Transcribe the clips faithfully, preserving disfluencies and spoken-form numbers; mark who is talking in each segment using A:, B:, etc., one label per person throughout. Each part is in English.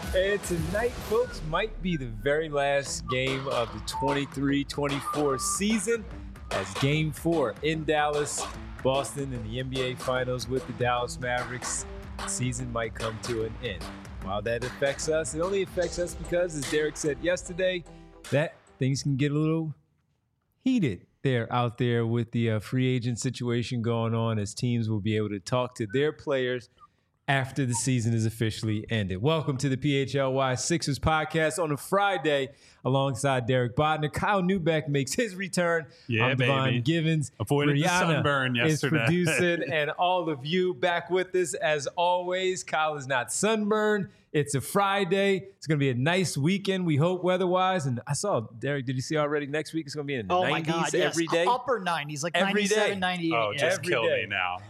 A: And tonight, folks, might be the very last game of the twenty-three twenty-four season as game four in Dallas, Boston in the N B A Finals with the Dallas Mavericks. The season might come to an end. While that affects us, it only affects us because, as Derek said yesterday, that things can get a little heated there out there with the uh, free agent situation going on, as teams will be able to talk to their players after the season is officially ended. Welcome to the P H L Y Sixers podcast on a Friday alongside Derek Bodner. Kyle Neubeck makes his return.
B: Yeah,
A: I'm Devon
B: baby.
A: Givens.
B: Avoided
A: Brianna
B: the sunburn yesterday.
A: is producing, and all of you back with us as always. Kyle is not sunburned. It's a Friday. It's going to be a nice weekend, we hope, weather-wise. And I saw, Derek, did you see already next week it's going to be in the
C: oh
A: nineties
C: my God, yes.
A: every day?
C: Upper nineties, like
A: Every
C: ninety-seven,
A: day.
C: ninety-eight.
B: Oh,
C: yeah.
B: just
A: Every
B: kill
A: day.
B: me now.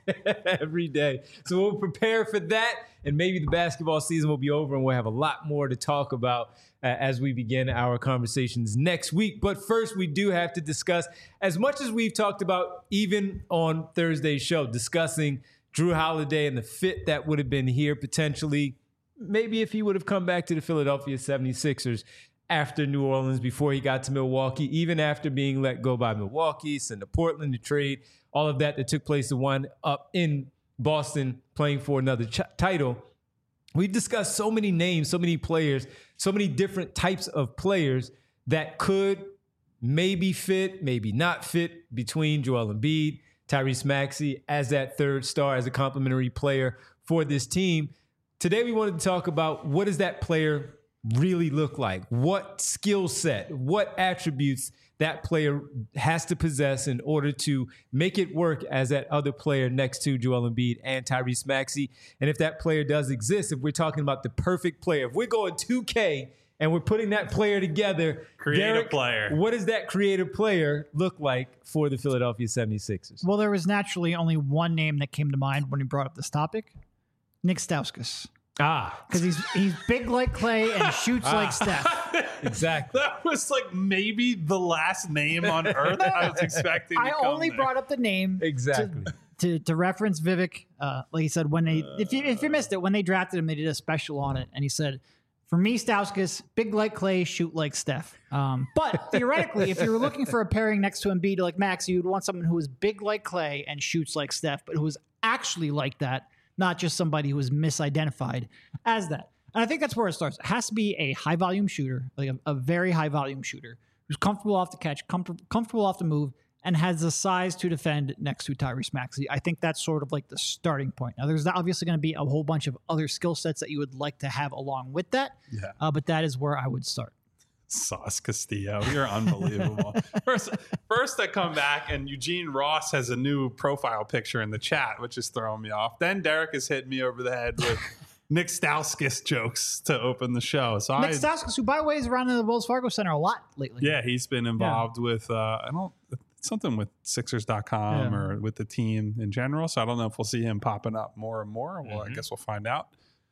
A: Every day. So we'll prepare for that, and maybe the basketball season will be over, and we'll have a lot more to talk about uh, as we begin our conversations next week. But first, we do have to discuss, as much as we've talked about even on Thursday's show, discussing Jrue Holiday and the fit that would have been here potentially, maybe if he would have come back to the Philadelphia seventy-sixers after New Orleans, before he got to Milwaukee, even after being let go by Milwaukee, sent to Portland to trade, all of that that took place to wind up in Boston playing for another ch- title. We've discussed so many names, so many players, so many different types of players that could maybe fit, maybe not fit between Joel Embiid, Tyrese Maxey as that third star, as a complementary player for this team. Today, we wanted to talk about, what does that player really look like? What skill set, what attributes that player has to possess in order to make it work as that other player next to Joel Embiid and Tyrese Maxey. And if that player does exist, if we're talking about the perfect player, if we're going two K and we're putting that player together,
B: Create
A: Derek,
B: a player.
A: What does that creative player look like for the Philadelphia seventy-sixers?
C: Well, there was naturally only one name that came to mind when he brought up this topic. Nick Stauskas.
A: Ah,
C: Because he's he's big like Clay and shoots like Steph.
A: exactly.
B: That was like maybe the last name on earth I was expecting to
C: I
B: come
C: only
B: there.
C: brought up the name
A: Exactly.
C: to, to, to reference Vivek. Uh, like he said, when they if you if you missed it, when they drafted him, they did a special on it, and he said, for me, Stauskas, big like Clay, shoot like Steph. Um, but theoretically, if you were looking for a pairing next to Embiid like Max, you'd want someone who was big like Clay and shoots like Steph, but who was actually like that, not just somebody who was misidentified as that. And I think that's where it starts. It has to be a high volume shooter, like a, a very high volume shooter, who's comfortable off the catch, comfort, comfortable off the move, and has the size to defend next to Tyrese Maxey. I think that's sort of like the starting point. Now, there's obviously going to be a whole bunch of other skill sets that you would like to have along with that,
B: Yeah.
C: uh, but that is where I would start.
B: Sauce Castillo, you're unbelievable. first, first I come back and Eugene Ross has a new profile picture in the chat, which is throwing me off. Then Derek has hit me over the head with Nick Stauskas jokes to open the show. So
C: Nick
B: I,
C: Stauskas, who by the way is around in the Wells Fargo Center a lot lately.
B: yeah, he's been involved with uh, I don't something with Sixers dot com
C: Yeah.
B: or with the team in general. So I don't know if we'll see him popping up more and more. Well,
A: Mm-hmm.
B: I guess we'll find out.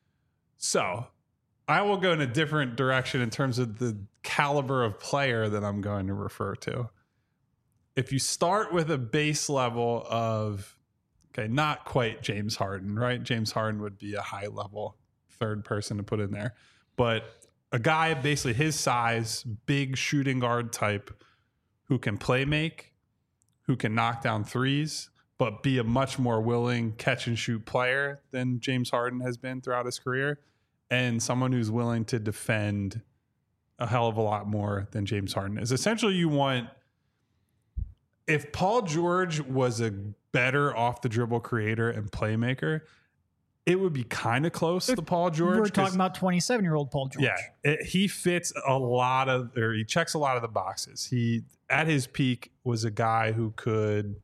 B: So I will go in a different direction in terms of the caliber of player that I'm going to refer to. If you start with a base level of, okay, not quite James Harden, right? James Harden would be a high level third person to put in there. But a guy basically his size, big shooting guard type, who can play make, who can knock down threes, but be a much more willing catch and shoot player than James Harden has been throughout his career. And someone who's willing to defend a hell of a lot more than James Harden is. Essentially, you want, if Paul George was a better off the dribble creator and playmaker, it would be kind of close to Paul George.
C: We're talking about twenty-seven year old Paul George.
B: Yeah, it, he fits a lot of, or he checks a lot of the boxes. He, at his peak, was a guy who could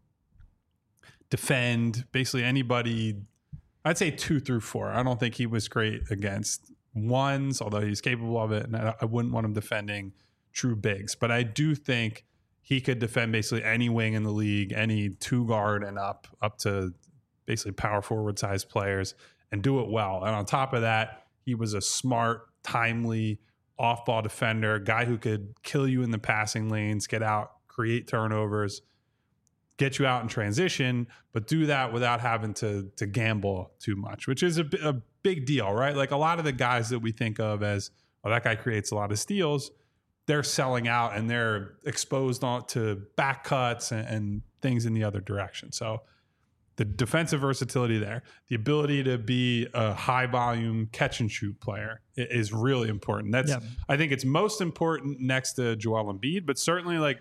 B: defend basically anybody. I'd say two through four. I don't think he was great against ones, although he's capable of it. And I, I wouldn't want him defending true bigs. But I do think he could defend basically any wing in the league, any two guard and up, up to basically power forward size players, and do it well. And on top of that, he was a smart, timely, off ball defender, guy who could kill you in the passing lanes, get out, create turnovers, get you out in transition, but do that without having to to gamble too much, which is a, a big deal, right? Like a lot of the guys that we think of as, oh, that guy creates a lot of steals, they're selling out and they're exposed on to back cuts and, and things in the other direction. So the defensive versatility there, the ability to be a high volume catch and shoot player is really important. That's, yep. I think it's most important next to Joel Embiid, but certainly like,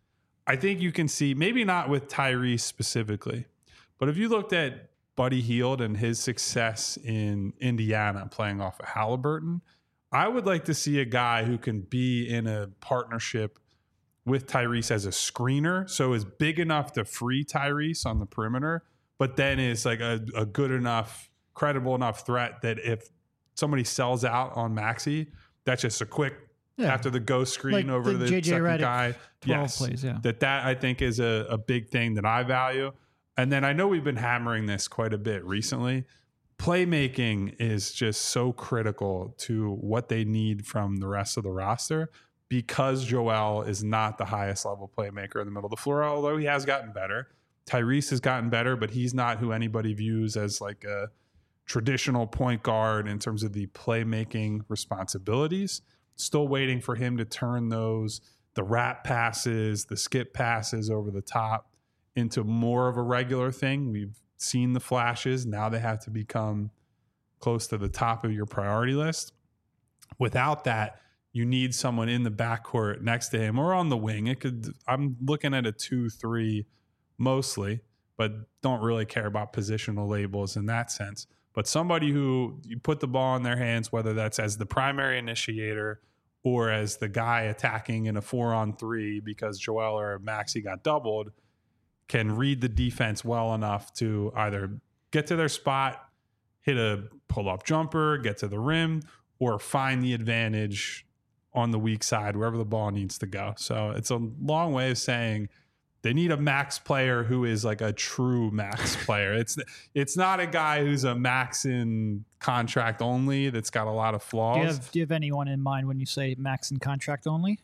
B: I think you can see, maybe not with Tyrese specifically, but if you looked at Buddy Hield and his success in Indiana playing off of Halliburton, I would like to see a guy who can be in a partnership with Tyrese as a screener. So is big enough to free Tyrese on the perimeter, but then is like a, a good enough, credible enough threat that if somebody sells out on Maxey, that's just a quick, yeah. after the go screen like over the, the second Redick guy. Yes, plays, yeah. that that I think is a, a big thing that I value. And then I know we've been hammering this quite a bit recently. Playmaking is just so critical to what they need from the rest of the roster because Joel is not the highest level playmaker in the middle of the floor, although he has gotten better. Tyrese has gotten better, but he's not who anybody views as like a traditional point guard in terms of the playmaking responsibilities. Still waiting for him to turn those, the wrap passes, the skip passes over the top into more of a regular thing. We've seen the flashes. Now they have to become close to the top of your priority list. Without that, you need someone in the backcourt next to him or on the wing. It could. I'm looking at a two three mostly, but don't really care about positional labels in that sense. But somebody who you put the ball in their hands, whether that's as the primary initiator or as the guy attacking in a four on three because Joel or Maxey got doubled, can read the defense well enough to either get to their spot, hit a pull-up jumper, get to the rim, or find the advantage on the weak side, wherever the ball needs to go. So it's a long way of saying they need a max player who is like a true max player. It's it's not a guy who's a max in contract only that's got a lot of flaws.
C: Do you have, do you have anyone in mind when you say max in contract only?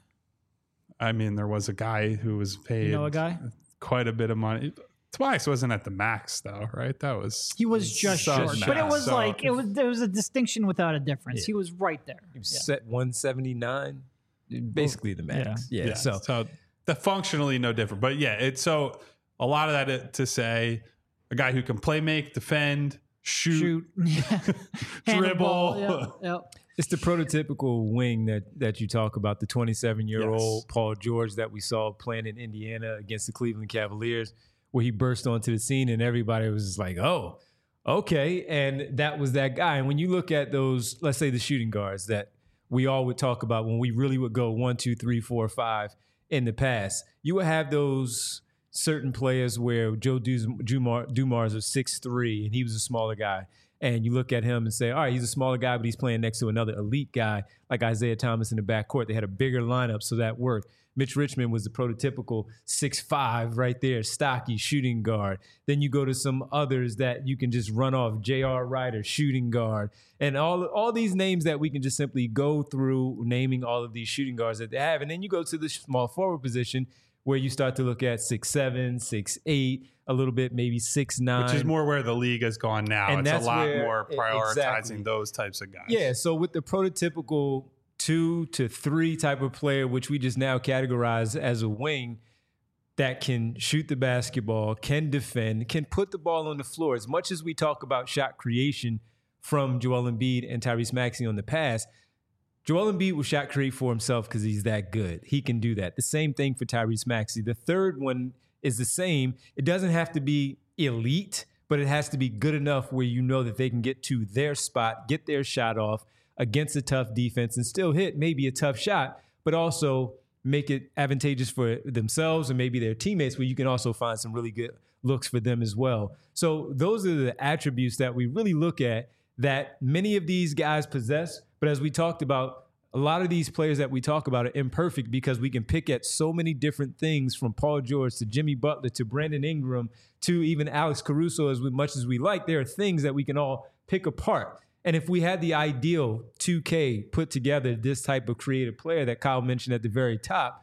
B: I mean, there was a guy who was paid
C: you know a guy?
B: quite a bit of money. Tobias wasn't at the max though, right? That was
C: he was just short, but it was so, like it was there was a distinction without a difference. Yeah. He was right there.
A: He was yeah. set one seventy-nine, basically the max. Yeah,
B: yeah. yeah. So, so the functionally no different, but yeah, it's so a lot of that to say a guy who can play, make, defend, shoot, shoot. dribble.
C: Yep, yep.
A: It's the prototypical wing that that you talk about, the twenty-seven-year-old yes. Paul George that we saw playing in Indiana against the Cleveland Cavaliers, where he burst onto the scene and everybody was just like, oh, okay. And that was that guy. And when you look at those, let's say the shooting guards that we all would talk about when we really would go one, two, three, four, five in the past, you would have those certain players where Joe Dumars, Dumars was six three and he was a smaller guy. And you look at him and say, all right, he's a smaller guy, but he's playing next to another elite guy like Isaiah Thomas in the backcourt. They had a bigger lineup, so that worked. Mitch Richmond was the prototypical six five right there, stocky shooting guard. Then you go to some others that you can just run off, J R. Ryder, shooting guard. And all, all these names that we can just simply go through naming all of these shooting guards that they have. And then you go to the small forward position where you start to look at six seven, six eight, a little bit, maybe six nine.
B: Which is more where the league has gone now. And it's a lot where, more prioritizing exactly. those types of guys.
A: Yeah, so with the prototypical two to three type of player, which we just now categorize as a wing, that can shoot the basketball, can defend, can put the ball on the floor. As much as we talk about shot creation from Joel Embiid and Tyrese Maxey on the pass, Joel Embiid will shot create for himself because he's that good. He can do that. The same thing for Tyrese Maxey. The third one is the same. It doesn't have to be elite, but it has to be good enough where you know that they can get to their spot, get their shot off against a tough defense and still hit maybe a tough shot, but also make it advantageous for themselves and maybe their teammates where you can also find some really good looks for them as well. So those are the attributes that we really look at that many of these guys possess. But as we talked about, a lot of these players that we talk about are imperfect because we can pick at so many different things from Paul George to Jimmy Butler to Brandon Ingram to even Alex Caruso. As much as we like, there are things that we can all pick apart. And if we had the ideal two K put together, this type of creative player that Kyle mentioned at the very top,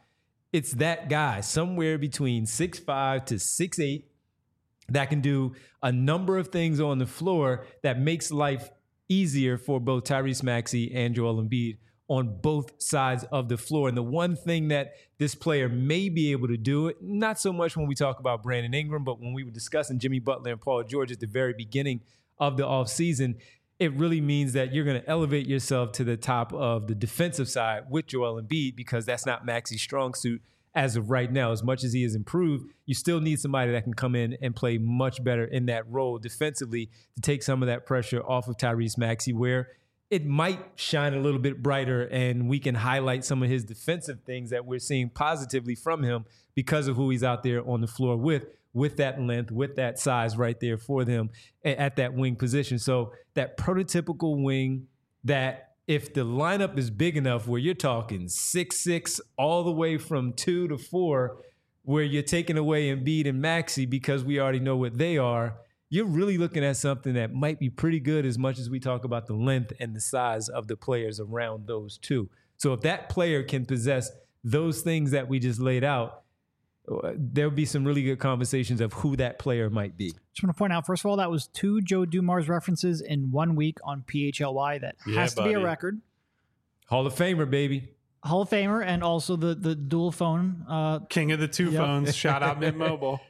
A: it's that guy somewhere between six five to six eight that can do a number of things on the floor that makes life easier for both Tyrese Maxey and Joel Embiid on both sides of the floor. And the one thing that this player may be able to do, not so much when we talk about Brandon Ingram, but when we were discussing Jimmy Butler and Paul George at the very beginning of the offseason, it really means that you're going to elevate yourself to the top of the defensive side with Joel Embiid, because that's not Maxey's strong suit as of right now. As much as he has improved, you still need somebody that can come in and play much better in that role defensively to take some of that pressure off of Tyrese Maxey, where it might shine a little bit brighter and we can highlight some of his defensive things that we're seeing positively from him because of who he's out there on the floor with, with that length, with that size right there for them at that wing position. So that prototypical wing that if the lineup is big enough where you're talking six six all the way from two to four, where you're taking away Embiid and Maxey because we already know what they are, you're really looking at something that might be pretty good as much as we talk about the length and the size of the players around those two. So if that player can possess those things that we just laid out, there'll be some really good conversations of who that player might be.
C: Just want to point out, first of all, that was two Joe Dumars references in one week on P H L Y. That
B: Yeah,
C: has to
B: buddy.
C: be a record.
A: Hall of Famer, baby.
C: Hall of Famer, and also the the dual phone. Uh,
B: King of the two
C: Yep.
B: phones. Shout out Mint Mobile.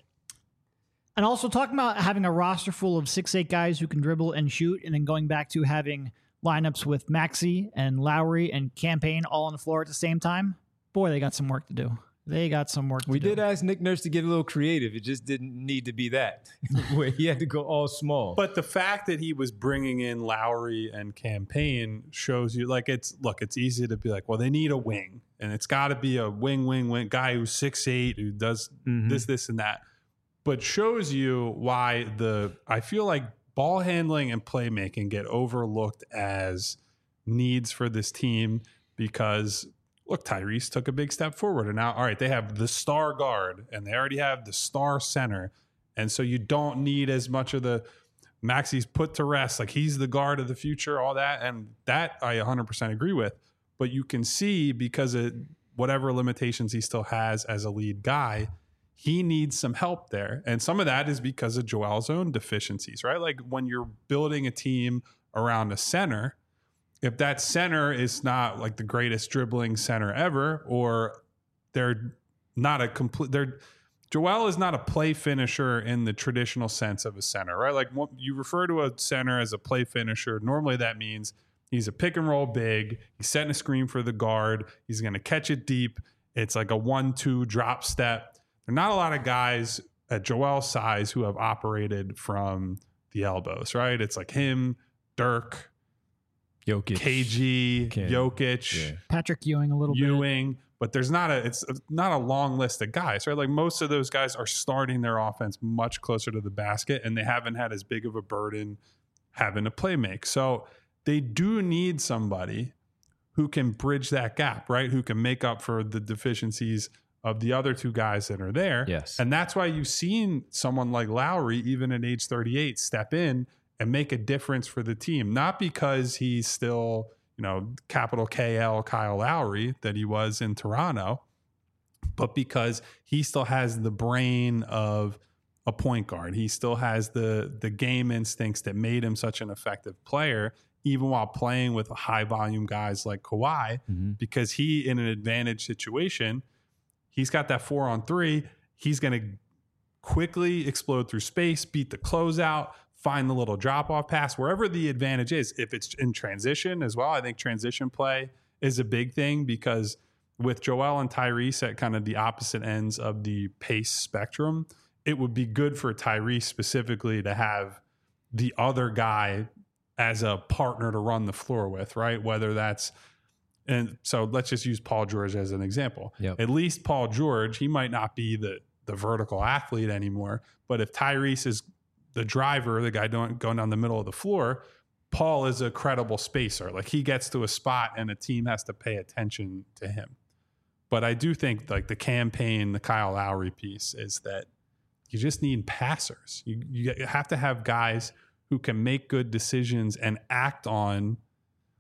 C: and also talking about having a roster full of six eight guys who can dribble and shoot, and then going back to having lineups with Maxey and Lowry and Campaign all on the floor at the same time. Boy, they got some work to do. They got some work to
A: We
C: do.
A: did ask Nick Nurse to get a little creative. It just didn't need to be that, where he had to go all small.
B: But the fact that he was bringing in Lowry and Campaign shows you, like, it's, look, it's easy to be like, well, they need a wing. And it's got to be a wing, wing, wing guy who's six eight, who does
A: Mhm.
B: this, this, and that. But shows you why the, I feel like ball handling and playmaking get overlooked as needs for this team because, look, Tyrese took a big step forward. And now, all right, they have the star guard and they already have the star center. And so you don't need as much of the Maxey's put to rest. Like, he's the guard of the future, all that. And that I one hundred percent agree with. But you can see, because of whatever limitations he still has as a lead guy, he needs some help there. And some of that is because of Joel's own deficiencies, right? Like, when you're building a team around a center, if that center is not like the greatest dribbling center ever, or they're not a complete, they're, Joel is not a play finisher in the traditional sense of a center, right? Like, what, you refer to a center as a play finisher. Normally that means he's a pick and roll big. He's setting a screen for the guard. He's going to catch it deep. It's like a one, two drop step. There are not a lot of guys at Joel's size who have operated from the elbows, right? It's like him, Dirk,
A: Jokic.
B: K G,
A: Ken.
B: Jokic,
A: Yeah.
C: Patrick Ewing a little bit.
B: Ewing, but there's not a it's not a long list of guys, right? Like, most of those guys are starting their offense much closer to the basket, and they haven't had as big of a burden having to play make. So they do need somebody who can bridge that gap, right? Who can make up for the deficiencies of the other two guys that are there.
A: Yes.
B: And that's why you've seen someone like Lowry, even at age thirty-eight, step in and make a difference for the team. Not because he's still, you know, capital K L Kyle Lowry that he was in Toronto, but because he still has the brain of a point guard. He still has the the game instincts that made him such an effective player, even while playing with high volume guys like Kawhi,
A: Mm-hmm.
B: because he, in an advantage situation, he's got that four on three. He's going to quickly explode through space, beat the closeout, find the little drop off pass, wherever the advantage is. If it's in transition as well, I think transition play is a big thing, because with Joel and Tyrese at kind of the opposite ends of the pace spectrum, it would be good for Tyrese specifically to have the other guy as a partner to run the floor with, right? Whether that's, and so let's just use Paul George as an example.
A: Yep.
B: At least Paul George, he might not be the the vertical athlete anymore, but if Tyrese is the driver, the guy doing, going down the middle of the floor, Paul is a credible spacer. Like, he gets to a spot and a team has to pay attention to him. But I do think, like, the campaign, the Kyle Lowry piece is that you just need passers. You, you have to have guys who can make good decisions and act on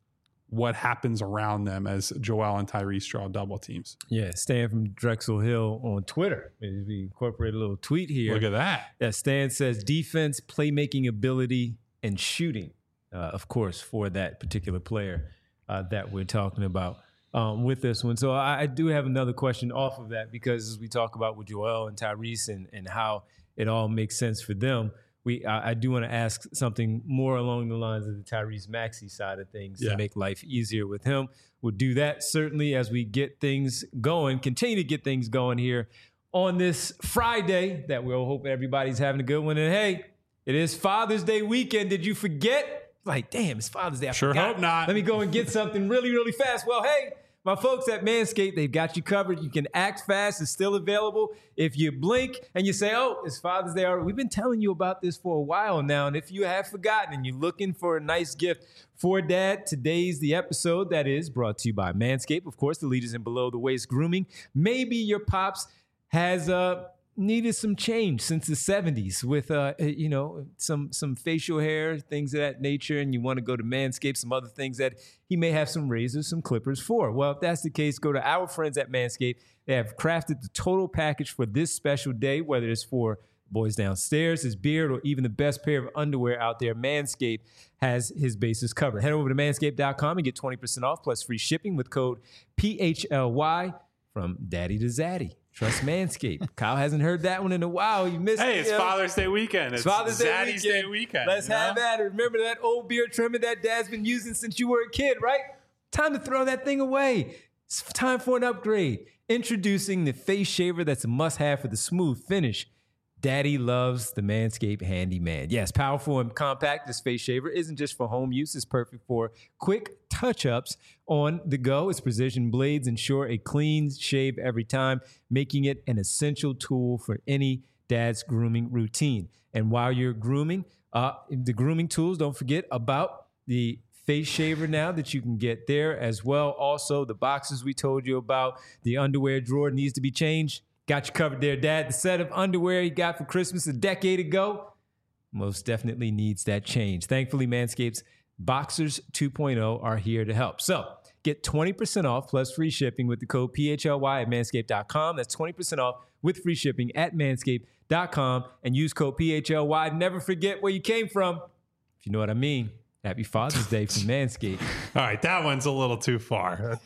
B: what happens around them as Joel and Tyrese draw double teams.
A: Yeah, Stan from Drexel Hill on Twitter. We incorporate a little tweet here.
B: Look at that.
A: Yeah, Stan says defense, playmaking ability, and shooting, uh, of course, for that particular player uh, that we're talking about um, with this one. So I, I do have another question off of that, because as we talk about with Joel and Tyrese and, and how it all makes sense for them, We, I, I do want to ask something more along the lines of the Tyrese Maxey side of things
B: yeah.
A: to make life easier with him. We'll do that certainly as we get things going, continue to get things going here on this Friday that we'll hope everybody's having a good one. And hey, it is Father's Day weekend. Did you forget? Like, damn, it's Father's Day. I
B: sure
A: forgot.
B: hope not.
A: Let me go and get something really, really fast. Well, hey, my folks at Manscaped, they've got you covered. You can act fast. It's still available. If you blink and you say, oh, it's Father's Day already. We've been telling you about this for a while now. And if you have forgotten and you're looking for a nice gift for dad, today's the episode that is brought to you by Manscaped. Of course, the leaders in below the waist grooming. Maybe your pops has uh, needed some change since the seventies with, uh, you know, some some facial hair, things of that nature, and you want to go to Manscaped, some other things that he may have some razors, some clippers for. Well, if that's the case, go to our friends at Manscaped. They have crafted the total package for this special day, whether it's for boys downstairs, his beard, or even the best pair of underwear out there. Manscaped has his bases covered. Head over to manscaped dot com and get twenty percent off plus free shipping with code P H L Y from daddy to zaddy. Trust Manscaped. Kyle hasn't heard that one in a while. You missed
B: Hey,
A: it.
B: it's
A: yo.
B: Father's Day weekend. It's,
A: It's Father's Day
B: Zaddy's
A: weekend.
B: Day weekend.
A: Let's
B: you know?
A: have that. Remember that old beard trimmer that dad's been using since you were a kid, right? Time to throw that thing away. It's time for an upgrade. Introducing the face shaver that's a must-have for the smooth finish. Daddy loves the Manscaped Handyman. Yes, powerful and compact, this face shaver isn't just for home use. It's perfect for quick touch-ups on the go. Its precision blades ensure a clean shave every time, making it an essential tool for any dad's grooming routine. And while you're grooming, uh, the grooming tools, don't forget about the face shaver now that you can get there as well. Also, the boxes we told you about, the underwear drawer needs to be changed. Got you covered there, Dad. The set of underwear you got for Christmas a decade ago most definitely needs that change. Thankfully, Manscaped's Boxers two point oh are here to help. So get twenty percent off plus free shipping with the code P H L Y at manscaped dot com. That's twenty percent off with free shipping at manscaped dot com and use code P H L Y. Never forget where you came from, if you know what I mean. Happy Father's Day from Manscaped.
B: All right, that one's a little too far.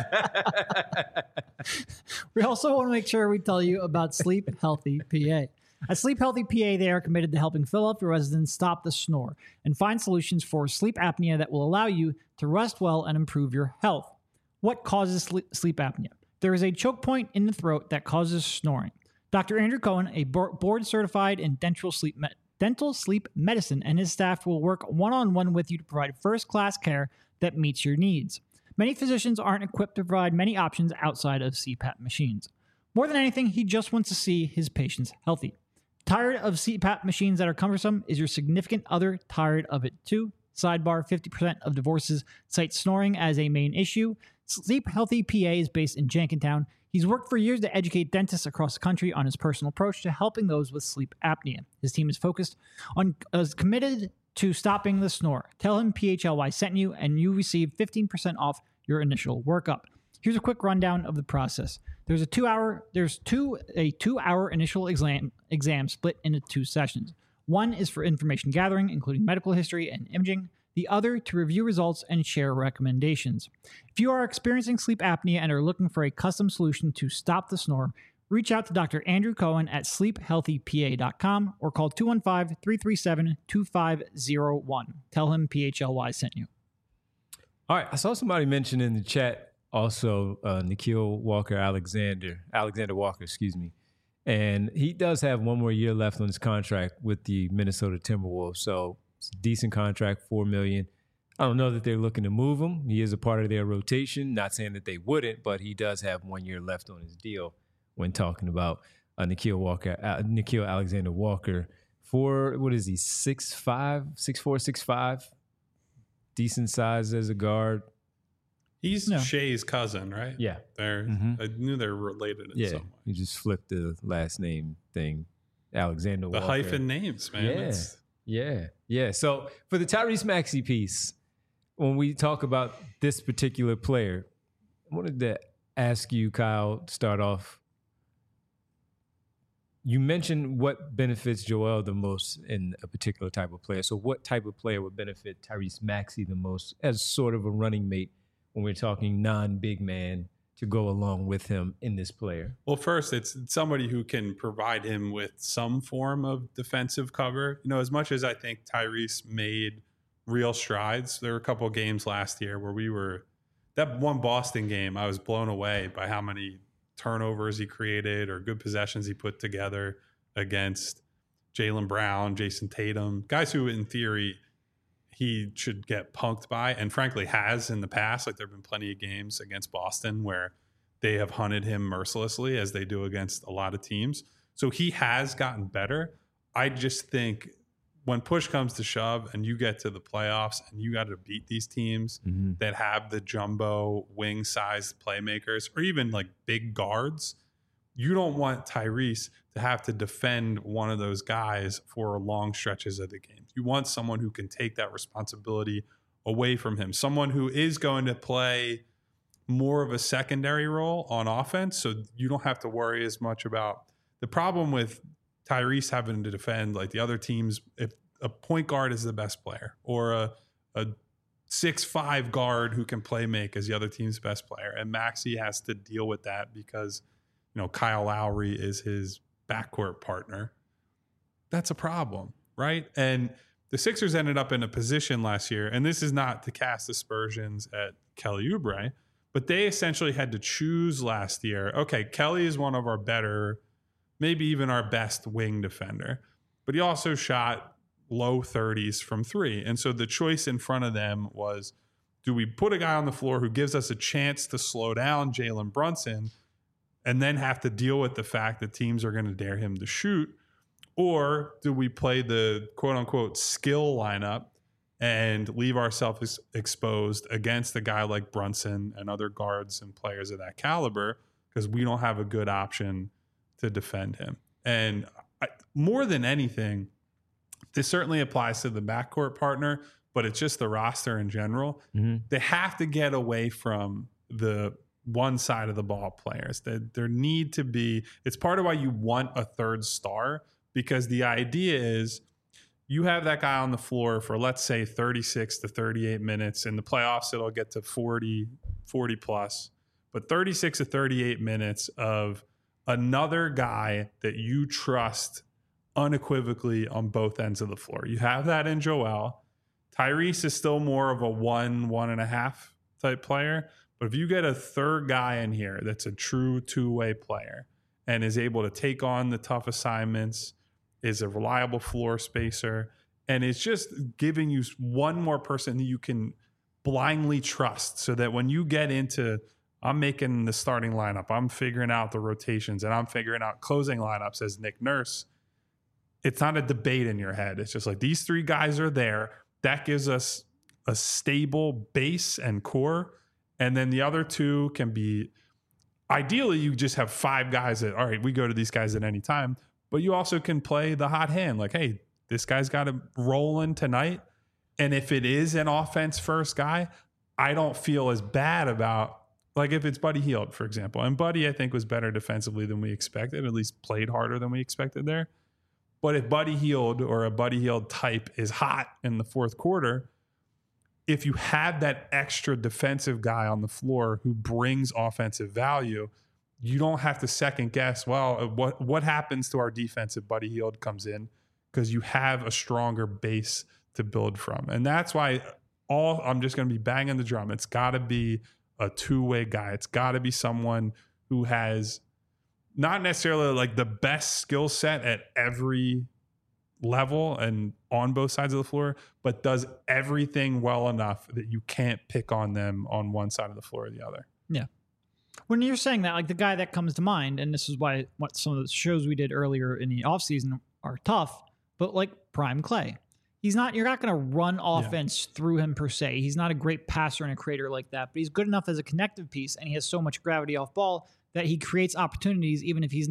C: We also want to make sure we tell you about Sleep Healthy P A. At Sleep Healthy P A, they are committed to helping Philadelphia residents stop the snore and find solutions for sleep apnea that will allow you to rest well and improve your health. What causes sleep apnea? There is a choke point in the throat that causes snoring. Doctor Andrew Cohen, a board certified in dental sleep med- dental sleep medicine, and his staff will work one-on-one with you to provide first-class care that meets your needs. Many physicians aren't equipped to provide many options outside of C PAP machines. More than anything, he just wants to see his patients healthy. Tired of C PAP machines that are cumbersome? Is your significant other tired of it too? Sidebar, fifty percent of divorces cite snoring as a main issue. Sleep Healthy P A is based in Jenkintown. He's worked for years to educate dentists across the country on his personal approach to helping those with sleep apnea. His team is focused on, is committed to stopping the snore. Tell him P H L Y sent you, and you receive fifteen percent off your initial workup. Here's a quick rundown of the process. There's a two-hour, there's two a two-hour initial exam exam split into two sessions. One is for information gathering, including medical history and imaging. The other to review results and share recommendations. If you are experiencing sleep apnea and are looking for a custom solution to stop the snore, reach out to Doctor Andrew Cohen at sleep healthy P A dot com or call two one five, three three seven, two five zero one. Tell him P H L Y sent you.
A: All right. I saw somebody mention in the chat also uh, Nikhil Walker Alexander, Alexander Walker, excuse me. And he does have one more year left on his contract with the Minnesota Timberwolves. So it's a decent contract, four million dollars. I don't know that they're looking to move him. He is a part of their rotation. Not saying that they wouldn't, but he does have one year left on his deal when talking about uh, Nikhil Walker, uh, Nikhil Alexander Walker. For, what is he, six five, six four, six five? Decent size as a guard.
B: He's
C: No.
B: Shay's cousin, right?
A: Yeah.
B: They're,
A: Mhm.
B: I knew they were related in
A: Yeah.
B: some way.
A: You just flipped the last name thing. Alexander
B: The
A: Walker.
B: hyphen names, man.
A: Yeah.
B: It's-
A: Yeah. Yeah. So for the Tyrese Maxey piece, when we talk about this particular player, I wanted to ask you, Kyle, to start off. You mentioned what benefits Joel the most in a particular type of player. So what type of player would benefit Tyrese Maxey the most as sort of a running mate when we're talking non-big man to go along with him in this player?
B: Well, first, it's somebody who can provide him with some form of defensive cover. You know, as much as I think Tyrese made real strides, there were a couple of games last year where we were, that one Boston game, I was blown away by how many turnovers he created or good possessions he put together against Jaylen Brown, Jason Tatum, guys who in theory he should get punked by, and frankly has in the past. Like there have been plenty of games against Boston where they have hunted him mercilessly as they do against a lot of teams. So he has gotten better. I just think when push comes to shove and you get to the playoffs and you got to beat these teams mm-hmm. that have the jumbo wing-sized playmakers or even like big guards, you don't want Tyrese to have to defend one of those guys for long stretches of the game. You want someone who can take that responsibility away from him, someone who is going to play more of a secondary role on offense, so you don't have to worry as much about the problem with Tyrese having to defend like the other teams. If a point guard is the best player or a, a six five guard who can play make is the other team's best player, and Maxey has to deal with that because, you know, Kyle Lowry is his backcourt partner. That's a problem, right? And the Sixers ended up in a position last year, and this is not to cast aspersions at Kelly Oubre, but they essentially had to choose last year. Okay, Kelly is one of our better, maybe even our best wing defender, but he also shot low thirties from three. And so the choice in front of them was, do we put a guy on the floor who gives us a chance to slow down Jalen Brunson and then have to deal with the fact that teams are going to dare him to shoot? Or do we play the quote unquote skill lineup and leave ourselves exposed against a guy like Brunson and other guards and players of that caliber because we don't have a good option to defend him? And I, more than anything, this certainly applies to the backcourt partner, but it's just the roster in general. Mm-hmm. They have to get away from the one side of the ball players. That there need to be, it's part of why you want a third star, because the idea is you have that guy on the floor for, let's say, thirty-six to thirty-eight minutes. In the playoffs, it'll get to forty, forty plus, but thirty-six to thirty-eight minutes of another guy that you trust unequivocally on both ends of the floor. You have that in Joel. Tyrese is still more of a one, one and a half type player. But if you get a third guy in here that's a true two-way player and is able to take on the tough assignments, is a reliable floor spacer, and is just giving you one more person that you can blindly trust, so that when you get into, I'm making the starting lineup, I'm figuring out the rotations, and I'm figuring out closing lineups as Nick Nurse, it's not a debate in your head. It's just like, these three guys are there. That gives us a stable base and core. And then the other two can be, ideally, you just have five guys that, all right, we go to these guys at any time. But you also can play the hot hand. Like, hey, this guy's got to roll in tonight. And if it is an offense first guy, I don't feel as bad about, like if it's Buddy Hield, for example. And Buddy, I think, was better defensively than we expected, at least played harder than we expected there. But if Buddy Hield or a Buddy Hield type is hot in the fourth quarter, if you have that extra defensive guy on the floor who brings offensive value, you don't have to second guess, well, what what happens to our defense if Buddy Hield comes in, because you have a stronger base to build from. And that's why all I'm just going to be banging the drum. It's got to be a two-way guy. It's got to be someone who has not necessarily like the best skill set at every level and on both sides of the floor, but does everything well enough that you can't pick on them on one side of the floor or the other.
C: Yeah. When you're saying that, like the guy that comes to mind, and this is why what some of the shows we did earlier in the offseason are tough, but like Prime Clay. He's not, you're not going to run offense yeah. through him per se. He's not a great passer and a creator like that, but he's good enough as a connective piece, and he has so much gravity off ball that he creates opportunities even if he's not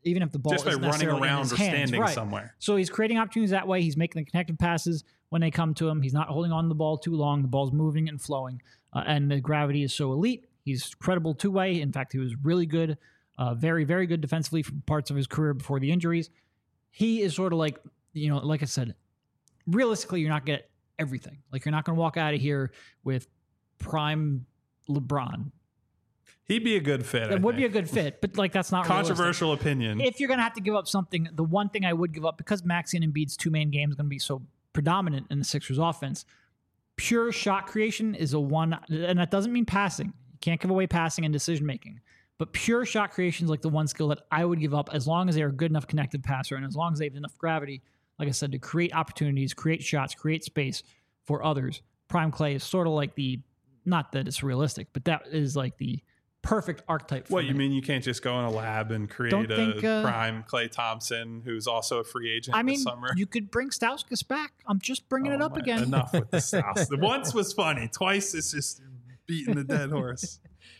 C: even if the ball
B: just by
C: isn't
B: running
C: necessarily in
B: around
C: his
B: or
C: hands.
B: standing
C: Right.
B: somewhere.
C: So he's creating opportunities that way. He's making the connected passes when they come to him. He's not holding on to the ball too long. The ball's moving and flowing, uh, and the gravity is so elite. He's credible two-way. In fact, he was really good, uh, very, very good defensively for parts of his career before the injuries. He is sort of like, you know, like I said, realistically, you're not going to get everything. Like, you're not going to walk out of here with prime LeBron.
B: He'd be a good fit.
C: That
B: I
C: would be a
B: think.
C: good fit, but like that's not
B: Controversial
C: realistic.
B: opinion.
C: If you're going to have to give up something, the one thing I would give up, because Maxey and Embiid's two main games are going to be so predominant in the Sixers offense, pure shot creation is a one, and that doesn't mean passing. You can't give away passing and decision making, but pure shot creation is like the one skill that I would give up as long as they're a good enough connected passer and as long as they have enough gravity, like I said, to create opportunities, create shots, create space for others. Prime Clay is sort of like the, not that it's realistic, but that is like the perfect archetype for
B: What,
C: me.
B: you mean you can't just go in a lab and create
C: Don't
B: a
C: think, uh,
B: prime Klay Thompson, who's also a free agent
C: I mean,
B: this summer?
C: you could bring Stauskas back. I'm just bringing
B: Oh
C: it up
B: my-
C: again.
B: Enough with the South. The once was funny. Twice it's just beating the dead horse.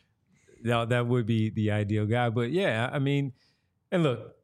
A: No, that would be the ideal guy. But yeah, I mean, and look,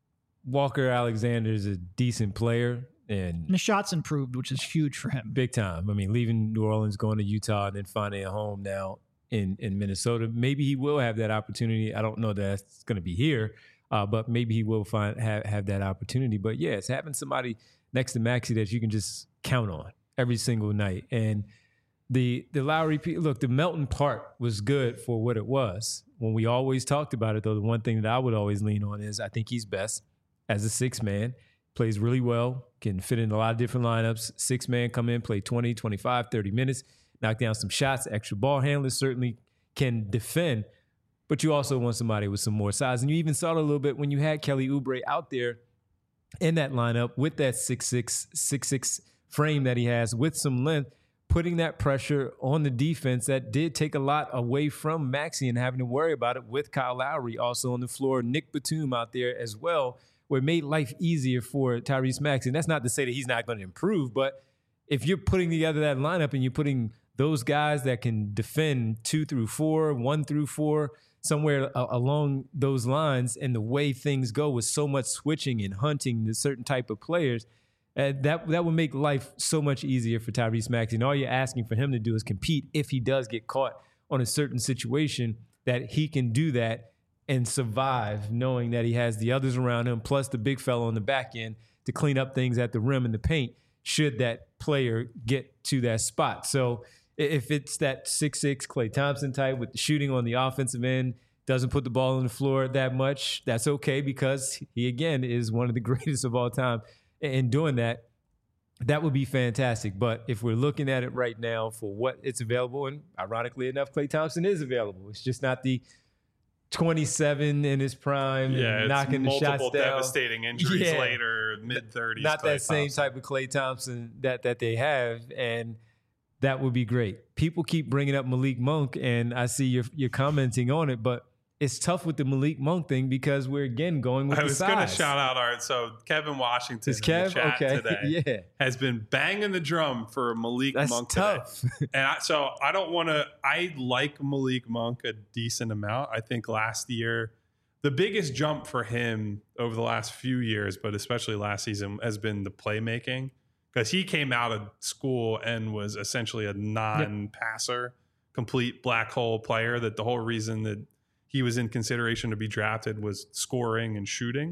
A: Walker Alexander is a decent player and
C: And the shots improved, which is huge for him.
A: big time. I mean, leaving New Orleans, going to Utah, and then finding a home now in, in Minnesota. Maybe he will have that opportunity. I don't know that that's going to be here, uh, but maybe he will find have, have that opportunity. But yeah, it's having somebody next to Maxey that you can just count on every single night. And the the Lowry, look, the Melton part was good for what it was. When we always talked about it, though, the one thing that I would always lean on is I think he's best as a six man. Plays really well, can fit in a lot of different lineups. Six man come in, play twenty, twenty-five, thirty minutes, knock down some shots. Extra ball handlers certainly can defend, but you also want somebody with some more size. And you even saw it a little bit when you had Kelly Oubre out there in that lineup with that six six, six six frame that he has with some length, putting that pressure on the defense that did take a lot away from Maxey and having to worry about it with Kyle Lowry also on the floor. Nick Batum out there as well, where it made life easier for Tyrese Maxey. And that's not to say that he's not going to improve, but if you're putting together that lineup and you're putting those guys that can defend two through four, one through four, somewhere a- along those lines, and the way things go with so much switching and hunting the certain type of players, uh, that that would make life so much easier for Tyrese Maxey. And all you're asking for him to do is compete if he does get caught on a certain situation, that he can do that and survive, knowing that he has the others around him, plus the big fella on the back end to clean up things at the rim and the paint, should that player get to that spot. So if it's that six six Klay Thompson type with the shooting on the offensive end, doesn't put the ball on the floor that much, that's okay, because he, again, is one of the greatest of all time in doing that. That would be fantastic. But if we're looking at it right now for what it's available, and ironically enough, Klay Thompson is available. It's just not the twenty-seven in his prime,
B: Yeah,
A: and
B: it's
A: knocking the shots
B: multiple
A: down.
B: devastating injuries
A: Yeah.
B: later, mid thirties.
A: Not that same type of Klay Thompson that that they have, and that would be great. People keep bringing up Malik Monk, and I see you're you're commenting on it, but it's tough with the Malik Monk thing because we're again going with
B: I
A: the
B: was
A: size.
B: going to shout out Art. So Kevin Washington
A: Is
B: in the
A: Kev
B: chat
A: okay?
B: today
A: Yeah,
B: has been banging the drum for Malik
A: that's
B: Monk
A: tough.
B: today. And I, so I don't want to. I like Malik Monk a decent amount. I think last year, the biggest jump for him over the last few years, but especially last season, has been the playmaking, because he came out of school and was essentially a non-passer, complete black hole player. That the whole reason that he was in consideration to be drafted was scoring and shooting.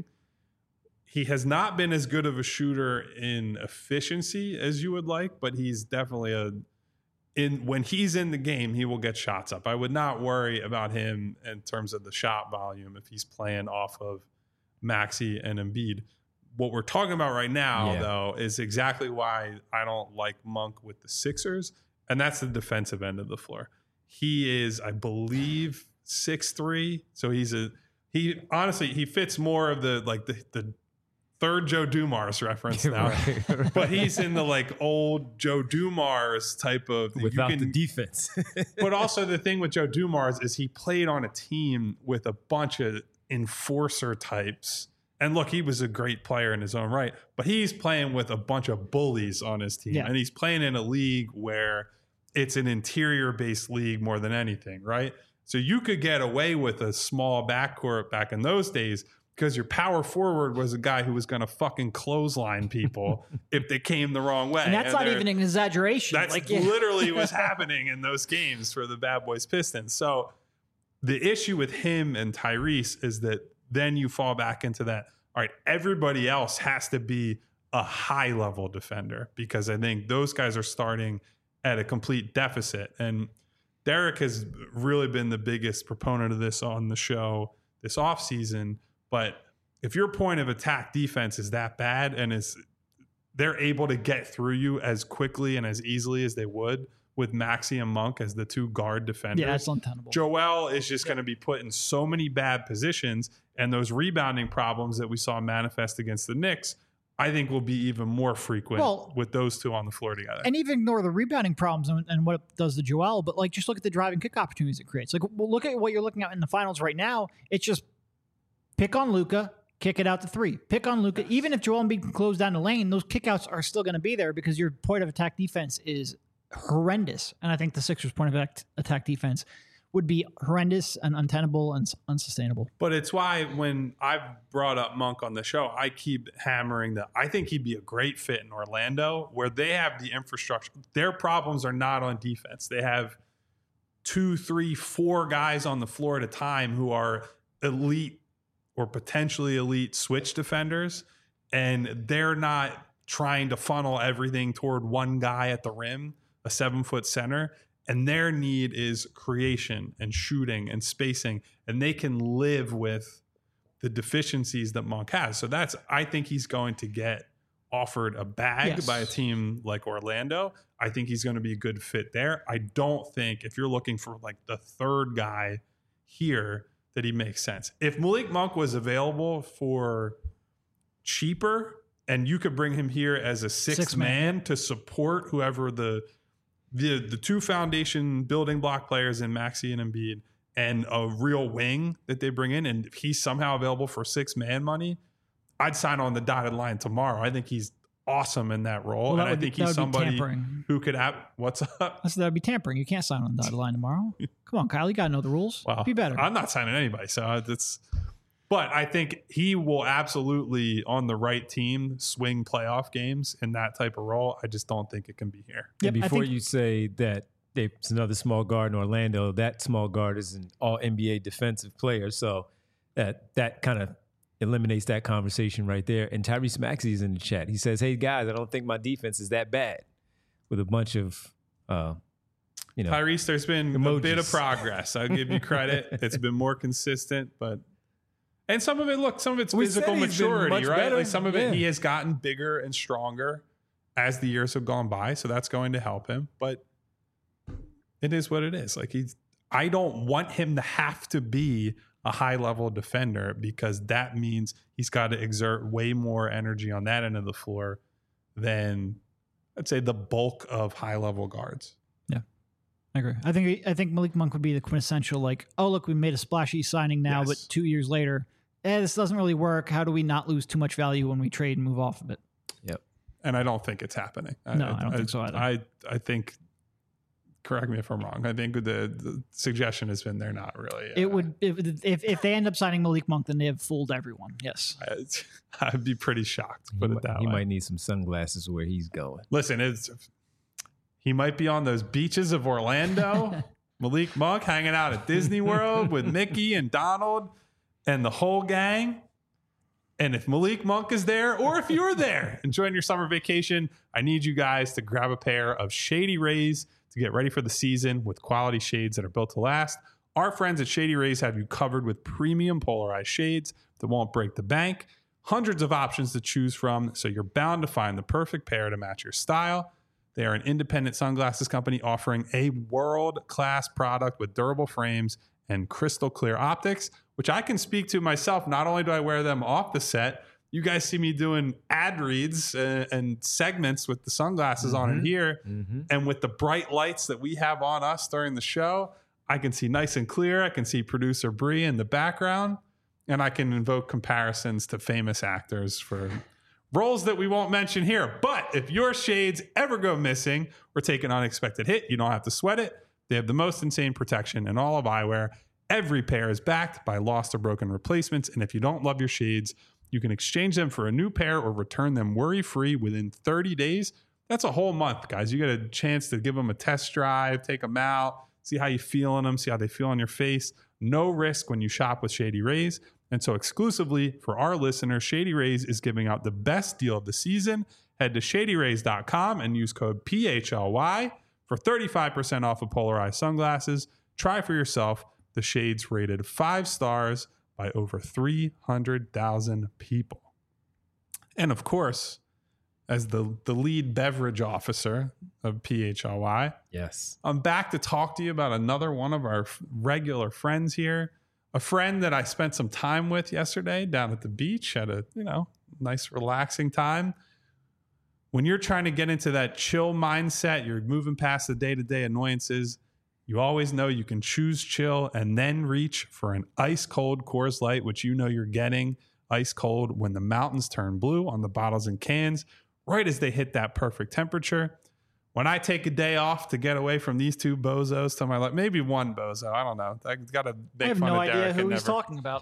B: He has not been as good of a shooter in efficiency as you would like, but he's definitely a in when he's in the game, he will get shots up. I would not worry about him in terms of the shot volume if he's playing off of Maxey and Embiid. What we're talking about right now,
A: Yeah.
B: though, is exactly why I don't like Monk with the Sixers, and that's the defensive end of the floor. He is, I believe, six three, so he's a he. Honestly, he fits more of the like the the third Joe Dumars reference now,
A: Right, right.
B: but he's in the like old Joe Dumars type of
A: Without
B: you
A: the
B: can,
A: defense.
B: but also the thing with Joe Dumars is he played on a team with a bunch of enforcer types. And look, he was a great player in his own right, but he's playing with a bunch of bullies on his team.
C: Yeah.
B: And he's playing in a league where it's an interior based league more than anything, right? So you could get away with a small backcourt back in those days because your power forward was a guy who was going to fucking clothesline people if they came the wrong way.
C: And that's
B: and
C: not even an exaggeration.
B: That's
C: like,
B: literally what's happening in those games for the Bad Boys Pistons. So the issue with him and Tyrese is that then you fall back into that, all right, everybody else has to be a high level defender, because I think those guys are starting at a complete deficit. And Derek has really been the biggest proponent of this on the show this offseason. But if your point of attack defense is that bad and is they're able to get through you as quickly and as easily as they would with Maxey and Monk as the two guard defenders,
C: yeah, that's untenable.
B: Joel is just going to be put in so many bad positions, and those rebounding problems that we saw manifest against the Knicks, I think, will be even more frequent
C: well,
B: with those two on the floor together.
C: And even ignore the rebounding problems and, and what it does to Joel, but like just look at the driving kick opportunities it creates. Like, well, look at what you're looking at in the finals right now. It's just pick on Luka, kick it out to three. Pick on Luka. Even if Joel Embiid can close down the lane, those kickouts are still going to be there because your point of attack defense is horrendous. And I think the Sixers' point of attack defense would be horrendous and untenable and unsustainable.
B: But it's why when I've brought up Monk on the show, I keep hammering that I think he'd be a great fit in Orlando, where they have the infrastructure. Their problems are not on defense. They have two, three, four guys on the floor at a time who are elite or potentially elite switch defenders, and they're not trying to funnel everything toward one guy at the rim, a seven-foot center. And their need is creation and shooting and spacing, and they can live with the deficiencies that Monk has. So that's, I think he's going to get offered a bag
C: yes.
B: by a team like Orlando. I think he's going to be a good fit there. I don't think if you're looking for like the third guy here that he makes sense. If Malik Monk was available for cheaper and you could bring him here as a sixth
C: Six
B: man.
C: man
B: to support whoever the The the two foundation building block players in Maxey and Embiid, and a real wing that they bring in, and if he's somehow available for six man money, I'd sign on the dotted line tomorrow. I think he's awesome in that role,
C: well, that
B: and I
C: would
B: think
C: be,
B: he's somebody who could have. What's up?
C: I said that would be tampering. You can't sign on the dotted line tomorrow. Come on, Kyle, you gotta know the rules.
B: Well,
C: be better.
B: I'm not signing anybody, so it's. But I think he will absolutely, on the right team, swing playoff games in that type of role. I just don't think it can be here.
A: Yep, and before
C: think,
A: you say that there's another small guard in Orlando, that small guard is an all N B A defensive player. So that that kind of eliminates that conversation right there. And Tyrese Maxey is in the chat. He says, hey, guys, I don't think my defense is that bad, with a bunch of, uh, you know.
B: Tyrese, there's been
A: emojis.
B: a bit of progress. I'll give you credit. It's been more consistent, but... And some of it, look, some of it's
A: We
B: physical
A: said he's been
B: maturity,
A: much
B: right?
A: better.
B: Like some of
A: Yeah.
B: it, he has gotten bigger and stronger as the years have gone by. So that's going to help him. But it is what it is. Like he's, I don't want him to have to be a high level defender, because that means he's got to exert way more energy on that end of the floor than, I'd say, the bulk of high level guards.
C: I agree. I think I think Malik Monk would be the quintessential, like, oh, look, we made a splashy signing now,
B: Yes.
C: but two years later, eh, this doesn't really work. How do we not lose too much value when we trade and move off of it?
A: Yep.
B: And I don't think it's happening.
C: No, I don't think so either.
B: I, I think, correct me if I'm wrong, I think the, the suggestion has been they're not really. Uh,
C: It would if, if if they end up signing Malik Monk, then they have fooled everyone. Yes.
B: I, I'd be pretty shocked, put
A: he
B: it that
A: might, he
B: way.
A: might need some sunglasses where he's going.
B: Listen, it's he might be on those beaches of Orlando. Malik Monk hanging out at Disney World with Mickey and Donald and the whole gang. And if Malik Monk is there, or if you're there enjoying your summer vacation, I need you guys to grab a pair of Shady Rays to get ready for the season with quality shades that are built to last. Our friends at Shady Rays have you covered with premium polarized shades that won't break the bank. Hundreds of options to choose from, so you're bound to find the perfect pair to match your style. They are an independent sunglasses company offering a world-class product with durable frames and crystal clear optics, which I can speak to myself. Not only do I wear them off the set, you guys see me doing ad reads and, and segments with the sunglasses
A: Mm-hmm.
B: on in here.
A: Mm-hmm.
B: And with the bright lights that we have on us during the show, I can see nice and clear. I can see producer Bree in the background, and I can invoke comparisons to famous actors for roles that we won't mention here. But if your shades ever go missing or take an unexpected hit, you don't have to sweat it. They have the most insane protection in all of eyewear, Every pair is backed by lost or broken replacements, and if you don't love your shades, you can exchange them for a new pair or return them worry-free within thirty days. That's a whole month, guys. You get a chance to give them a test drive, take them out, see how you feel in them, see how they feel on your face. No risk when you shop with Shady Rays. And so exclusively for our listeners, Shady Rays is giving out the best deal of the season. Head to shady rays dot com and use code P H L Y for thirty-five percent off of polarized sunglasses. Try for yourself the shades rated five stars by over three hundred thousand people. And of course, as the, the lead beverage officer of P H L Y,
A: yes,
B: I'm back to talk to you about another one of our regular friends here. A friend that I spent some time with yesterday down at the beach, had a, you know, nice relaxing time. When you're trying to get into that chill mindset, you're moving past the day-to-day annoyances, you always know you can choose chill and then reach for an ice cold Coors Light, which you know you're getting ice cold when the mountains turn blue on the bottles and cans, right as they hit that perfect temperature. When I take a day off to get away from these two bozos to my left, maybe one bozo, I don't know. I got to make
C: I have
B: fun
C: no
B: of Derek.
C: idea who
B: and
C: he's
B: never...
C: talking about.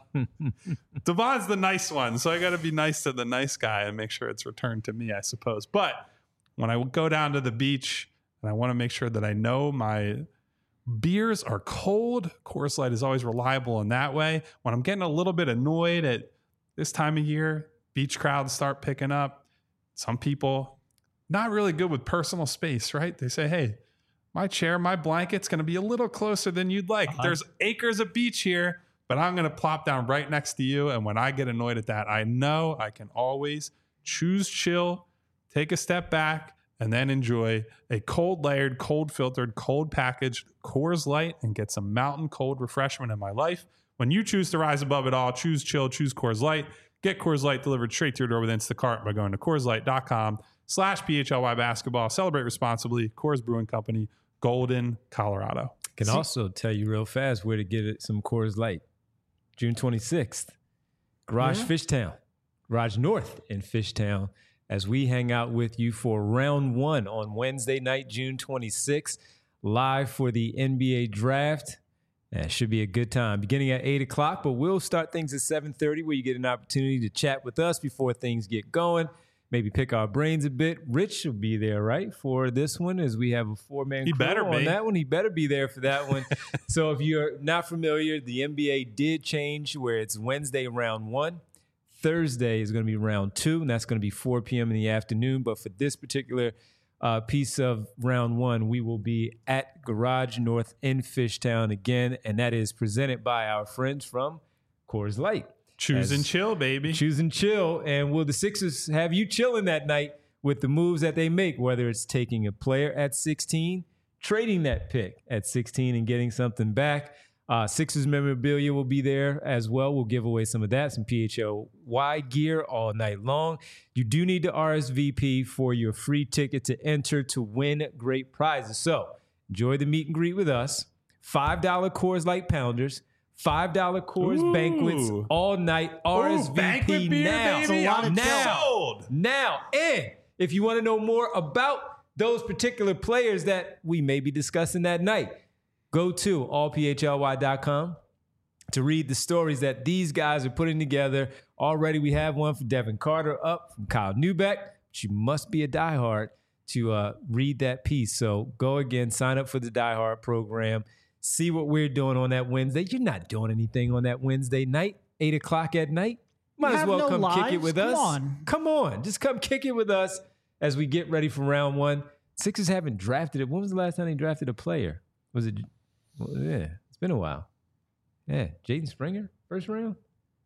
B: Devon's the nice one, so I got to be nice to the nice guy and make sure it's returned to me, I suppose. But when I go down to the beach and I want to make sure that I know my beers are cold, Coors Light is always reliable in that way. When I'm getting a little bit annoyed at this time of year, beach crowds start picking up. Some people not really good with personal space, right? They say, hey, my chair, my blanket's going to be a little closer than you'd like. Uh-huh. There's acres of beach here, but I'm going to plop down right next to you. And when I get annoyed at that, I know I can always choose chill, take a step back, and then enjoy a cold layered, cold filtered, cold packaged Coors Light and get some mountain cold refreshment in my life. When you choose to rise above it all, choose chill, choose Coors Light. Get Coors Light delivered straight to your door with Instacart by going to Coors Light dot com slash P H L Y basketball. Celebrate responsibly. Coors Brewing Company, Golden, Colorado.
A: Can
B: See?
A: also tell you real fast where to get it, some Coors Light. June twenty-sixth, Garage
B: Yeah.
A: Fishtown, Garage North in Fishtown, as we hang out with you for round one on Wednesday night, June twenty-sixth, live for the N B A draft. It should be a good time. Beginning at eight o'clock, but we'll start things at seven thirty where you get an opportunity to chat with us before things get going. Maybe pick our brains a bit. Rich will be there, right, for this one, as we have a four-man
B: He
A: crew
B: better
A: on
B: be.
A: that one. He better be there for that one. So if you're not familiar, the N B A did change where it's Wednesday round one. Thursday is going to be round two, and that's going to be four p.m. in the afternoon. But for this particular uh, piece of round one, we will be at Garage North in Fishtown again, and that is presented by our friends from Coors Light.
B: Choose and
A: As-
B: chill, baby.
A: Choose and chill. And will the Sixers have you chilling that night with the moves that they make, whether it's taking a player at sixteen, trading that pick at sixteen and getting something back? Uh, Sixers memorabilia will be there as well. We'll give away some of that, some P H L Y gear all night long. You do need to R S V P for your free ticket to enter to win great prizes. So enjoy the meet and greet with us. five dollar Coors Light Pounders. five dollar Coors
B: Ooh.
A: Banquets all night. R S V P
B: banquet beer,
A: now.
B: baby.
C: It's a lot of
A: now.
B: Sold.
A: Now. And if you want to know more about those particular players that we may be discussing that night, go to all P H L Y dot com to read the stories that these guys are putting together. Already we have one for Devin Carter up from Kyle Neubeck. But you must be a diehard to uh, read that piece. So go again, sign up for the diehard program. See what we're doing on that Wednesday. You're not doing anything on that Wednesday night, eight o'clock at night. Might
C: You
A: as
C: have
A: well
C: no
A: come kick it
C: lives?
A: with
C: Come
A: us.
C: on.
A: Come on. Just come kick it with us as we get ready for round one. Sixers haven't drafted it. When was the last time they drafted a player? Was it? Well, yeah, it's been a while. Yeah, Jaden Springer, first round?